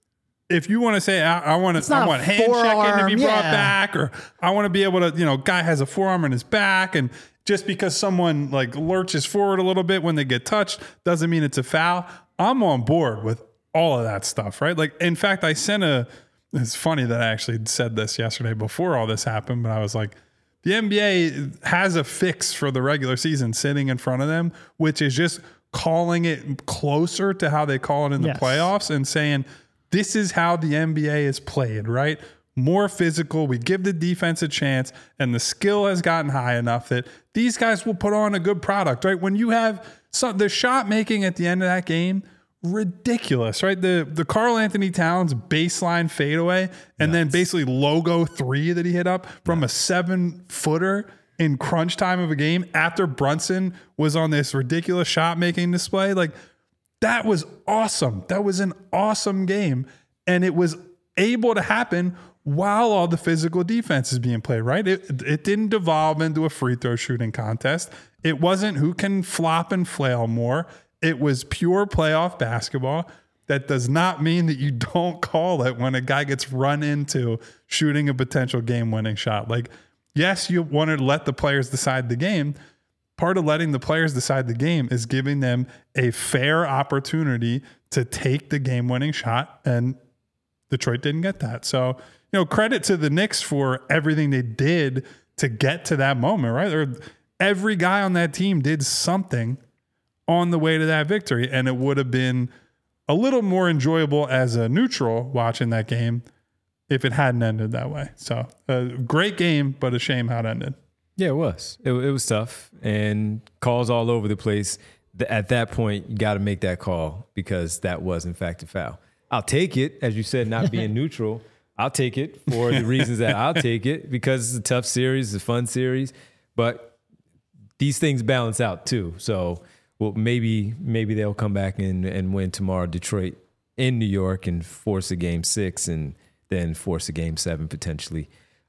if you want to say I, I want to, not I a want hand checking to forearm, be brought yeah. back, or I want to be able to, you know, guy has a forearm in his back, and just because someone like lurches forward a little bit when they get touched doesn't mean it's a foul. I'm on board with all of that stuff, right? Like, in fact, I sent a. It's funny that I actually said this yesterday before all this happened, but I was like, the N B A has a fix for the regular season sitting in front of them, which is just calling it closer to how they call it in the Yes. playoffs and saying, this is how the N B A is played, right? More physical. We give the defense a chance, and the skill has gotten high enough that these guys will put on a good product, right? When you have some, the shot making at the end of that game, ridiculous, right? The the Karl Anthony Towns baseline fadeaway and then basically logo three that he hit up from a seven footer in crunch time of a game after Brunson was on this ridiculous shot making display. Like that was awesome. That was an awesome game. And it was able to happen while all the physical defense is being played, right? It, it didn't devolve into a free throw shooting contest. It wasn't who can flop and flail more. It was pure playoff basketball. That does not mean that you don't call it when a guy gets run into shooting a potential game-winning shot. Like, yes, you want to let the players decide the game. Part of letting the players decide the game is giving them a fair opportunity to take the game-winning shot, and Detroit didn't get that. So, you know, credit to the Knicks for everything they did to get to that moment, right? Or every guy on that team did something on the way to that victory, and it would have been a little more enjoyable as a neutral watching that game if it hadn't ended that way. So a great game, but a shame how it ended. Yeah, it was. It, it was tough and calls all over the place. Th- At that point, you got to make that call because that was, in fact, a foul. I'll take it, as you said, not being neutral. I'll take it for the reasons that I'll take it because it's a tough series, it's a fun series, but these things balance out too. So, well, maybe maybe they'll come back and, and win tomorrow, Detroit in New York, and force a game six and then force a game seven potentially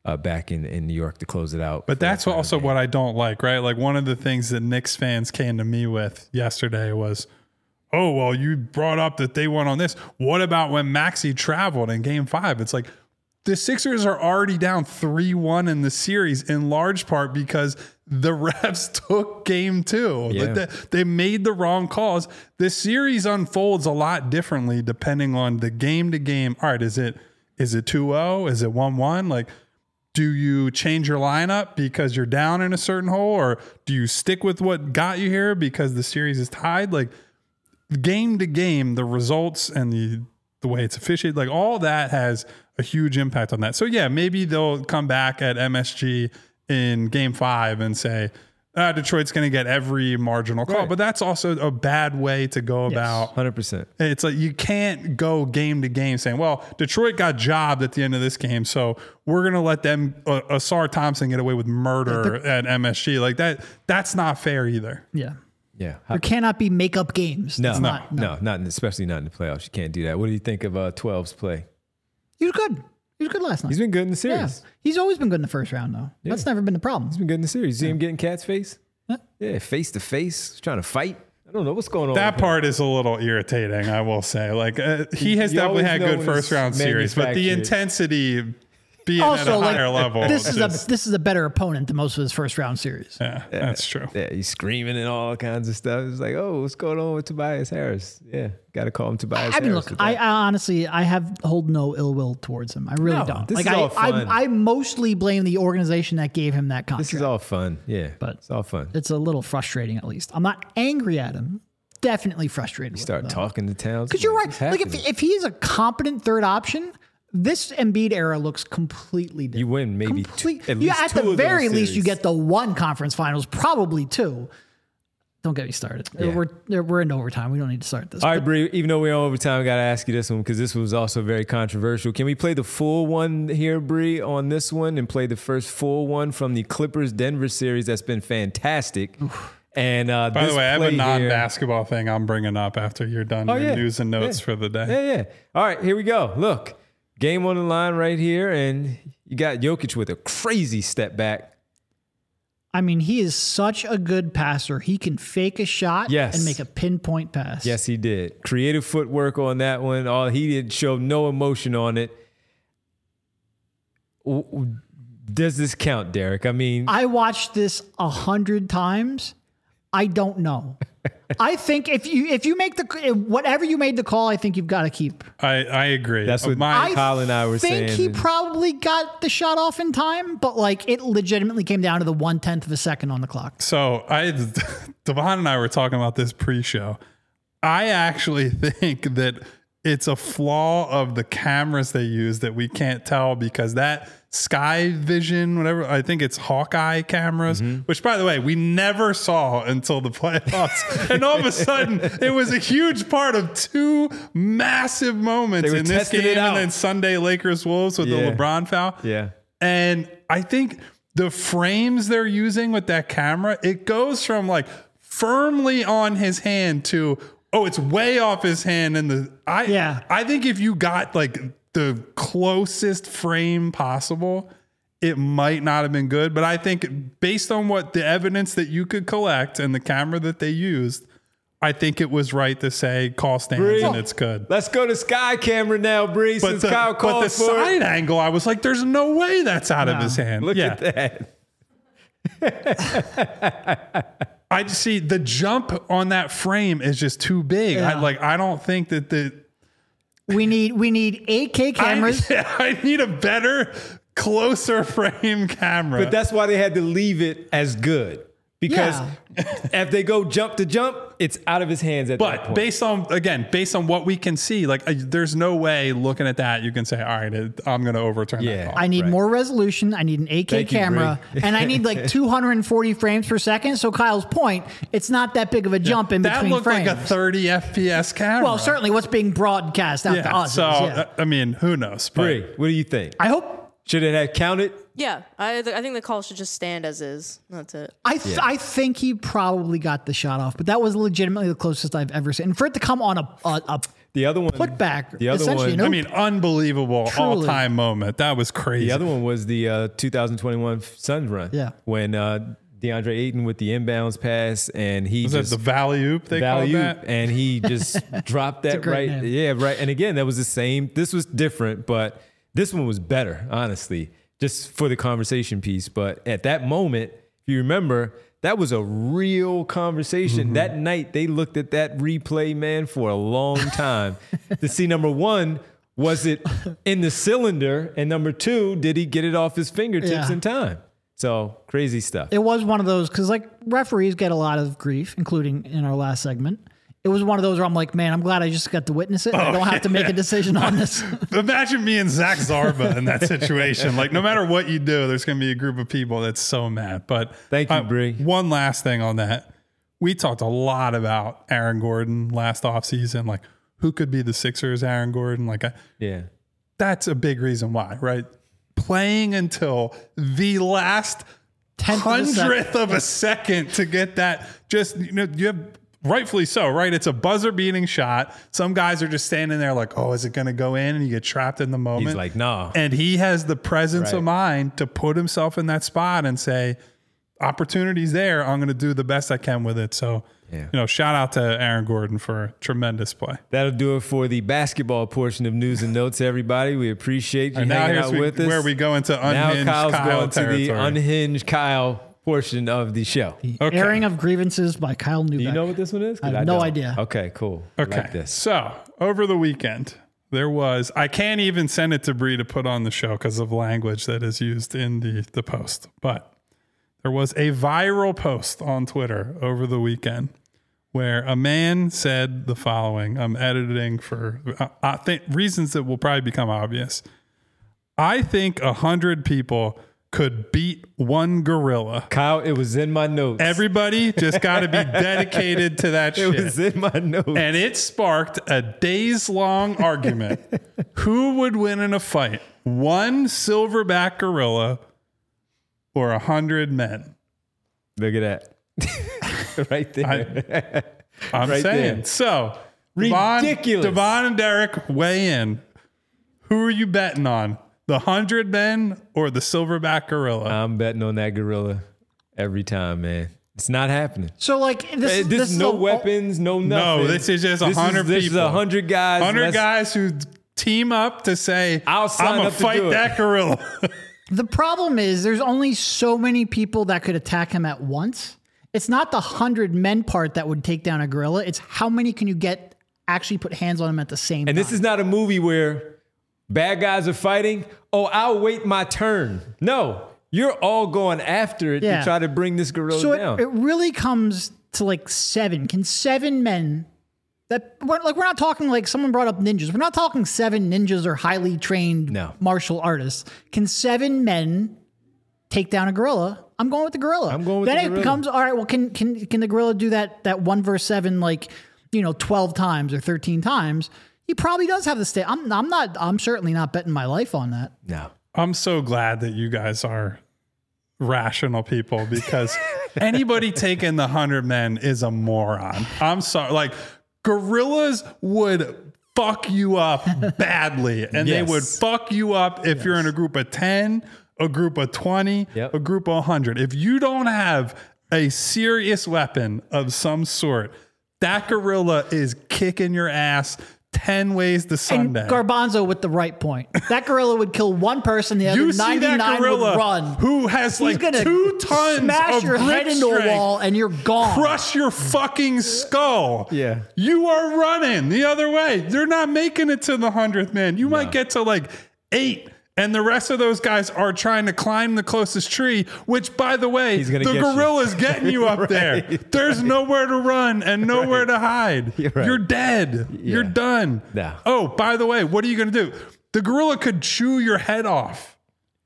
uh, back in, in New York to close it out. But that's also what I don't like, right? Like one of the things that Knicks fans came to me with yesterday was, oh, well, you brought up that they won on this. What about when Maxey traveled in game five? It's like the Sixers are already down three one in the series in large part because the refs took game two. Yeah. Like they, they made the wrong calls. The series unfolds a lot differently depending on the game to game. All right, is it is it two oh? Is it one one? Like, do you change your lineup because you're down in a certain hole, or do you stick with what got you here because the series is tied? Like, game to game, the results and the the way it's officiated, like all that has a huge impact on that. So yeah, maybe they'll come back at M S G in game five and say, ah, Detroit's going to get every marginal call. Right. But that's also a bad way to go Yes. about. one hundred percent. It's like you can't go game to game saying, well, Detroit got jobbed at the end of this game, so we're going to let them, uh, Asar Thompson, get away with murder at M S G. Like that, that's not fair either. Yeah. Yeah. There cannot be makeup games. No, It's no, not, no, not in, especially not in the playoffs. You can't do that. What do you think of uh, twelve's play? He was good. He was good last night. He's been good in the yeah. series. He's always been good in the first round, though. That's never been the problem. He's been good in the series. See him getting Cat's face? Yeah. Yeah, face to face, trying to fight. I don't know what's going on. That with him. part is a little irritating, I will say. Like uh, he has You definitely always had know good when first it's round series, but the manufactured. intensity being at Also, a like, higher level. this is just- a this is a better opponent than most of his first round series. yeah, that's true. Yeah, he's screaming and all kinds of stuff. It's like, oh, what's going on with Tobias Harris? Yeah, got to call him Tobias I mean, Harris. look, with I, that. I honestly, I have hold no ill will towards him. I really No, don't. this like, is I, all fun. I, I mostly blame the organization that gave him that contract. this is all fun. Yeah, But- it's all fun. It's a little frustrating, at least. I'm not angry at him. Definitely frustrated. with Start him, though. talking to Towns. Because you're right. What's Like if happening? if he's a competent third option, this Embiid era looks completely different. You win maybe two, Complete, at yeah, least at two the of very those least, you series. get the one conference finals, probably two. Don't get me started. Yeah. We're we're in overtime. We don't need to start this. All right, Bree, even though we're on overtime, I got to ask you this one because this was also very controversial. Can we play the full one here, Bree, on this one and play the first full one from the Clippers-Denver series that's been fantastic? And uh, By this the way, I have a play here- non-basketball thing I'm bringing up after you're done Oh, your yeah. news and notes Yeah. for the day. Yeah, yeah. All right, here we go. Look, game on the line right here, and you got Jokic with a crazy step back. I mean, he is such a good passer. He can fake a shot Yes. and make a pinpoint pass. Yes, he did. Creative footwork on that one. All he did show no emotion on it. W- w- Does this count, Derek? I mean, I watched this a hundred times. I don't know. I think if you if you make the whatever you made the call, I think you've got to keep. I, I agree. That's what My, I Kyle and I were think saying he that- probably got the shot off in time, but like it legitimately came down to the one tenth of a second on the clock. so I, Devon and I were talking about this pre-show. I actually think that it's a flaw of the cameras they use that we can't tell because that Sky Vision, whatever, I think it's Hawkeye cameras, Mm-hmm. which by the way, we never saw until the playoffs. And all of a sudden it was a huge part of two massive moments They were in this testing it game out. and then Sunday Lakers Wolves with Yeah. the LeBron foul. yeah. And I think the frames they're using with that camera, it goes from like firmly on his hand to, oh, it's way off his hand. And the I Yeah. I think if you got like the closest frame possible, it might not have been good. But I think based on what the evidence that you could collect and the camera that they used, I think it was right to say call stands Bree. and it's good. Let's go to Sky Camera now, Bree, But since the, Kyle but called the for side it. angle, I was like, there's no way that's out of No. his hand. Look yeah. at that. I just see the jump on that frame is just too big. I Yeah. like I don't think that the We need we need eight K cameras. I, I need a better, closer frame camera. But that's why they had to leave it as good. Because if they go jump to jump, it's out of his hands at that But point. based on again, based on what we can see, like uh, there's no way looking at that you can say, all right, it, I'm going to overturn Yeah. that call. I need Right. more resolution. I need an eight K Thank you, camera, Bree. and I need like two hundred forty frames per second. So Kyle's point, it's not that big of a jump in that between looked frames. like a thirty F P S camera. well, certainly what's being broadcast out to Yeah. us. So is, yeah. uh, I mean, who knows? But Bree, what do you think? I hope. Should it have counted? Yeah, I th- I think the call should just stand as is. That's it. I th- I think he probably got the shot off, but that was legitimately the closest I've ever seen. And for it to come on a a, a The other one, put back. The other essentially, one, no, I mean, unbelievable Truly. all-time moment. That was crazy. the other one was the uh, two thousand twenty-one Suns run. Yeah. when uh, DeAndre Ayton with the inbounds pass, and he was just that the Valley Oop they value, called that? and he just dropped that great right. name. Yeah, right. And again, that was the same. This was different, but this one was better, honestly, just for the conversation piece. But at that moment, if you remember, that was a real conversation. Mm-hmm. That night, they looked at that replay, man, for a long time to see, number one, was it in the cylinder? And number two, did he get it off his fingertips Yeah. in time? So crazy stuff. it was one of those because like referees get a lot of grief, including in our last segment. It was one of those where I'm like, man, I'm glad I just got to witness it. I don't have to make a decision on this. Imagine me and Zach Zarba in that situation. Like, no matter what you do, there's going to be a group of people that's so mad. But Thank you, uh, Bree. One last thing on that. We talked a lot about Aaron Gordon last offseason. Like, who could be the Sixers' Aaron Gordon? Like, I, Yeah. that's a big reason why, right? Playing until the last Tenth of a second. hundredth of a second to get that. Just, you know, you have rightfully so, right? It's a buzzer beating shot. Some guys are just standing there like, oh, is it going to go in? And you get trapped in the moment. He's like, nah. And he has the presence Right. of mind to put himself in that spot and say, opportunity's there. I'm going to do the best I can with it. So, Yeah. you know, shout out to Aaron Gordon for tremendous play. That'll do it for the basketball portion of news and notes, everybody. We appreciate you And now hanging here's out we- with us. where we go into now unhinged Kyle's Kyle going to the territory. unhinged Kyle portion of the show. Okay. Airing of grievances by Kyle Newbeck. Do you know what this one is? 'Cause I have no don't. idea. Okay, cool. I Okay. like this. So over the weekend, there was, I can't even send it to Bree to put on the show because of language that is used in the, the post. But there was a viral post on Twitter over the weekend where a man said the following. I'm editing for I, I think reasons that will probably become obvious. I think a hundred people could beat one gorilla. Kyle, it was in my notes. Everybody just got to be dedicated to that it shit. was in my notes. And it sparked a days long argument. Who would win in a fight? One silverback gorilla or a hundred men? Look at that. right there. I'm Right saying. there. So, Devon, Ridiculous. Devon and Derek weigh in. Who are you betting on? The hundred men or the silverback gorilla? I'm betting on that gorilla every time, man. It's not happening. So like this, Hey, is this this is is no a- weapons, no nothing. no, this is just a This is- hundred people. This is a hundred guys. hundred Let's- guys who team up to say, I'll sign I'm gonna up to fight do it." that gorilla. The problem is there's only so many people that could attack him at once. It's not the hundred men part that would take down a gorilla. It's how many can you get actually put hands on him at the same And time. this is not a movie where bad guys are fighting. Oh, I'll wait my turn. No, you're all going after it Yeah. to try to bring this gorilla so down. it, it really comes to like seven. Can seven men that we're, like we're not talking like someone brought up ninjas. We're not talking seven ninjas or highly trained No. martial artists. Can seven men take down a gorilla? I'm going with the gorilla. I'm going with then the it gorilla. becomes all right. Well, can can can the gorilla do that that one verse seven like you know twelve times or thirteen times? He probably does have the state. I'm I'm not. I'm certainly not betting my life on that. no. I'm so glad that you guys are rational people because anybody taking the hundred men is a moron. I'm sorry. Like gorillas would fuck you up badly and they Yes. would fuck you up if you're in a group of ten, a group of twenty, Yep. a group of one hundred. If you don't have a serious weapon of some sort, that gorilla is kicking your ass ten ways to And Sunday. Garbanzo with the right point. That gorilla would kill one person. The other You see that ninety-nine gorilla would run. who has He's like gonna two tons smash of your grip head into a strength, wall and you're gone. crush your fucking skull. Yeah. You are running the other way. They're not making it to the hundredth man. You might get to like eight. And the rest of those guys are trying to climb the closest tree, which, by the way, He's the gonna get you. gorilla's getting you up there. There's nowhere to run and nowhere to hide. You're right. You're dead. You're Yeah. done. No. Oh, by the way, what are you going to do? The gorilla could chew your head off.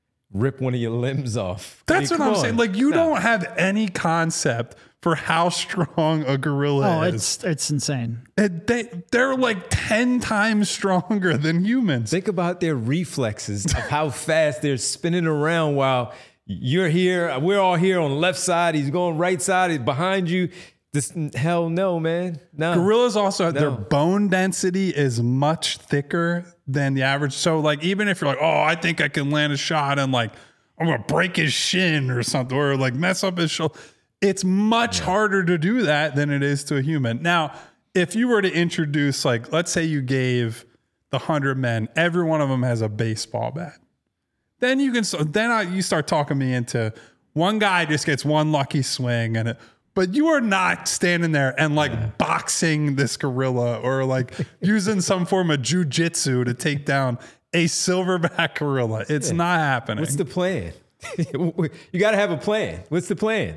Rip one of your limbs off. That's I mean, what I'm come saying. on. Like, you No. don't have any concept for how strong a gorilla Oh, is. it's it's insane. And they, they're like ten times stronger than humans. Think about their reflexes of how fast they're spinning around while you're here. We're all here on the left side. He's going right side. He's behind you. This hell no, man. No. Gorillas also, No. their bone density is much thicker than the average. So, like, even if you're like, oh, I think I can land a shot and, like, I'm going to break his shin or something, or, like, mess up his shoulder, it's much yeah. harder to do that than it is to a human. Now, if you were to introduce, like, let's say you gave the one hundred men, every one of them has a baseball bat. Then you can, then I, you start talking me into one guy just gets one lucky swing and it, but you are not standing there and like yeah. boxing this gorilla or like using some form of jujitsu to take down a silverback gorilla. It's yeah. not happening. What's the plan? You got to have a plan. What's the plan?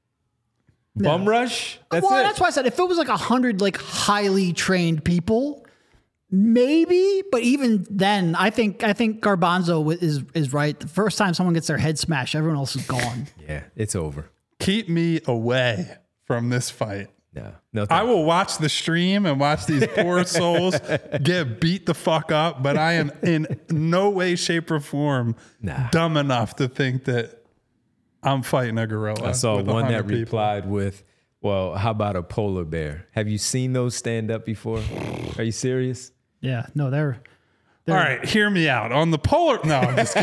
No. Bum rush? That's well, it. That's why I said if it was like a hundred like highly trained people, maybe. But even then, I think I think Garbanzo is is right. The first time someone gets their head smashed, everyone else is gone. Yeah, it's over. Keep me away from this fight. No, no. I will watch the stream and watch these poor souls get beat the fuck up, but I am in no way, shape, or form nah. dumb enough to think that I'm fighting a gorilla. I saw one that people. replied with, well, how about a polar bear? Have you seen those stand up before? Are you serious? Yeah, no, they're... they're All right, hear me out. On the polar... No, I'm just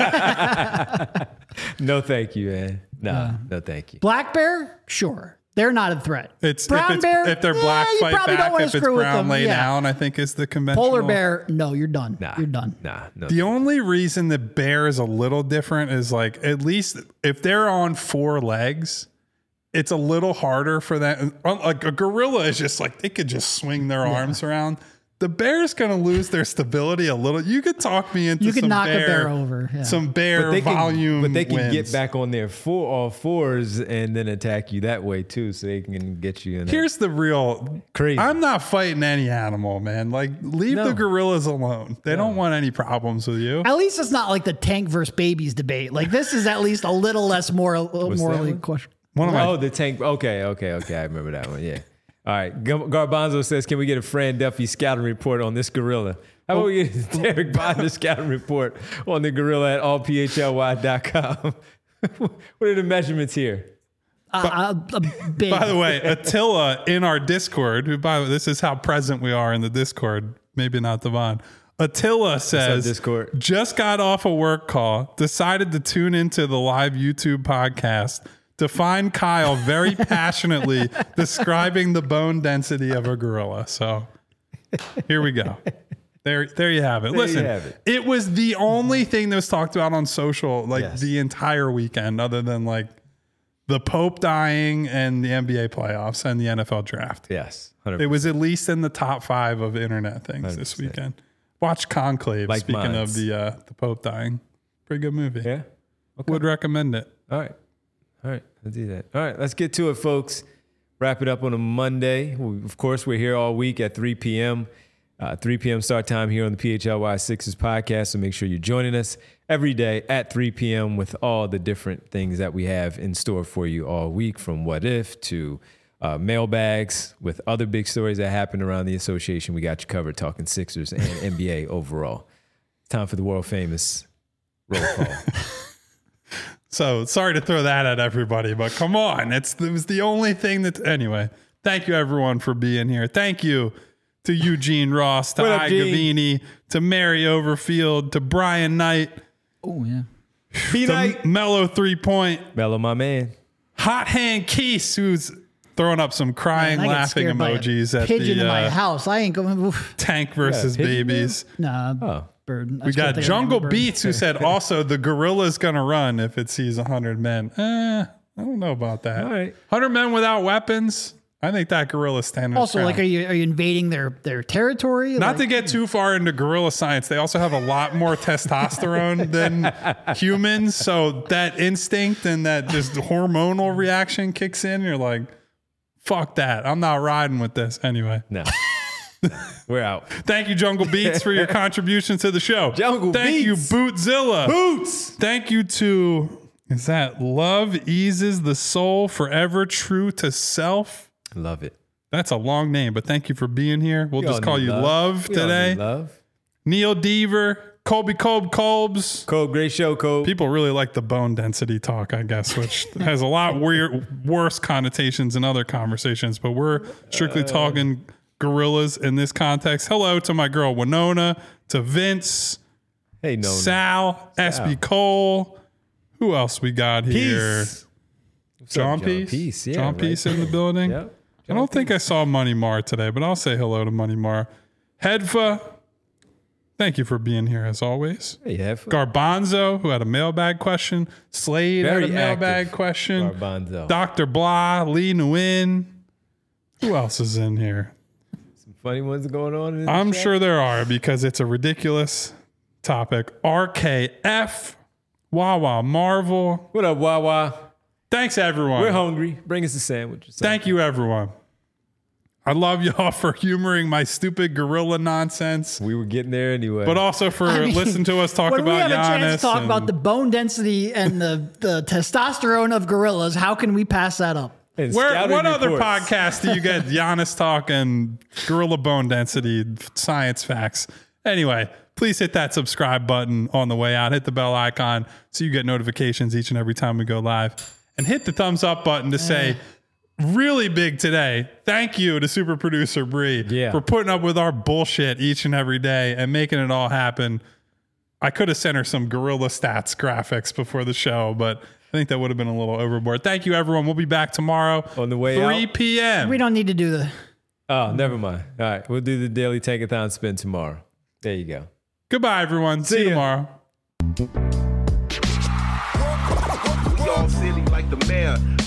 kidding. No, thank you, man. No, uh, no, thank you. Black bear? Sure. They're not a threat. It's brown if it's, bear. If they're black, eh, fight back. If it's brown, lay yeah. down. I think is the conventional. Polar bear. No, you're done. Nah, you're done. Nah. No. The only reason the bear is a little different is like at least if they're on four legs, it's a little harder for that. Like a gorilla is just like they could just swing their yeah. arms around. The bear's going to lose their stability a little. You could talk me into you could some knock bear, a bear over. Yeah. Some bear but volume can, But they can wins. get back on their four, all fours and then attack you that way too, so they can get you in. Here's the real crazy. I'm not fighting any animal, man. Like leave no. the gorillas alone. They no. don't want any problems with you. At least it's not like the tank versus babies debate. Like this is at least a little less moral, morally questionable. One of my oh, the tank. Okay, okay, okay. I remember that one. Yeah. All right. Garbanzo says, can we get a Fran Duffy scouting report on this gorilla? How about we get Derek Bodner scouting report on the gorilla at all p h l y dot com? What are the measurements here? Uh, uh, big. By the way, Attila in our Discord, who by the way, this is how present we are in the Discord, maybe not Devon. Attila says, Discord? Just got off a work call, decided to tune into the live YouTube podcast to find Kyle very passionately describing the bone density of a gorilla. So here we go. There, there you have it. There Listen, have it. it was the only thing that was talked about on social like Yes. the entire weekend, other than like the Pope dying and the N B A playoffs and the N F L draft. Yes. one hundred percent. It was at least in the top five of internet things one hundred percent. This weekend. Watch Conclave. Like speaking minds. of the uh, the Pope dying, pretty good movie. Yeah. Okay. Would recommend it. All right. All right. Let's do that. All right. Let's get to it, folks. Wrap it up on a Monday. We, of course, we're here all week at three p.m. Uh, three p.m. start time here on the P H L Y Sixers podcast. So make sure you're joining us every day at three p.m. with all the different things that we have in store for you all week, from What If to uh, mailbags with other big stories that happen around the association. We got you covered, talking Sixers and N B A overall. Time for the world famous roll call. So sorry to throw that at everybody, but come on. It's, it was the only thing that, anyway, thank you everyone for being here. Thank you to Eugene Ross, to What up, I Gene? Gavini, to Mary Overfield, to Brian Knight, Oh, yeah. Be to night. Mellow Three Point, Mellow, my man. Hot Hand Keese, who's throwing up some crying, Man, I get laughing scared by a emojis at pigeon the in my uh, house. I ain't going. Oof. Tank versus Yeah, pigeon Babies. Nah, Oh. bird. I We just couldn't got think of the name Jungle of the bird. Beats, who said also the gorilla's going to run if it sees one hundred men. Eh, I don't know about that. All right. one hundred men without weapons. I think that gorilla's standing. Also, its like, are ground. you are you invading their their territory? Not Like, to get too far into gorilla science, they also have a lot more testosterone than humans. So that instinct and that just hormonal reaction kicks in. You're like, fuck that. I'm not riding with this. Anyway. No. We're out. Thank you, Jungle Beats, for your contribution to the show. Jungle Thank Beats. you, Bootzilla. Boots. Thank you to, is that Love Eases the Soul, Forever True to Self? Love it. That's a long name, but thank you for being here. We'll We just all call need you Love, We all today. need love. Neil Deaver, Colby Colb Colbs. Cole, great show, Cole. People really like the bone density talk, I guess, which has a lot weird, worse connotations in other conversations, but we're strictly uh, talking gorillas in this context. Hello to my girl Winona, to Vince, hey, Nona. Sal, Sal, S B Cole. Who else we got here? Peace. John, up, John Peace. Peace, yeah, John right. Peace in the building. Yep. I don't Peace. think I saw Money Mar today, but I'll say hello to Money Mar. Hedva, thank you for being here as always. Hey, have fun. Garbanzo, who had a mailbag question. Slade Very had a mailbag active. question. Garbanzo. Doctor Blah, Lee Nguyen. Who else is in here? Some funny ones going on in this I'm chat? sure there are because it's a ridiculous topic. R K F, Wawa Marvel. What up, Wawa? Thanks, everyone. We're hungry. Bring us a sandwich. Thank you, everyone. I love y'all for humoring my stupid gorilla nonsense, We were getting there anyway. but also for I mean, listening to us talk when about we have Giannis. a chance to talk and- about the bone density and the, the testosterone of gorillas, how can we pass that up? And Where, scouting what other reports. podcast do you get Giannis talk and gorilla bone density science facts? Anyway, please hit that subscribe button on the way out. Hit the bell icon so you get notifications each and every time we go live. And hit the thumbs up button to say, really big today. Thank you to super producer Bree Yeah. for putting up with our bullshit each and every day and making it all happen. I could have sent her some gorilla stats graphics before the show, but I think that would have been a little overboard. Thank you, everyone. We'll be back tomorrow On the way three out? p.m. We don't need to do the. Oh, never mind. All right. We'll do the daily tankathon spin tomorrow. There you go. Goodbye, everyone. See, See you ya. tomorrow. We all silly like the mayor.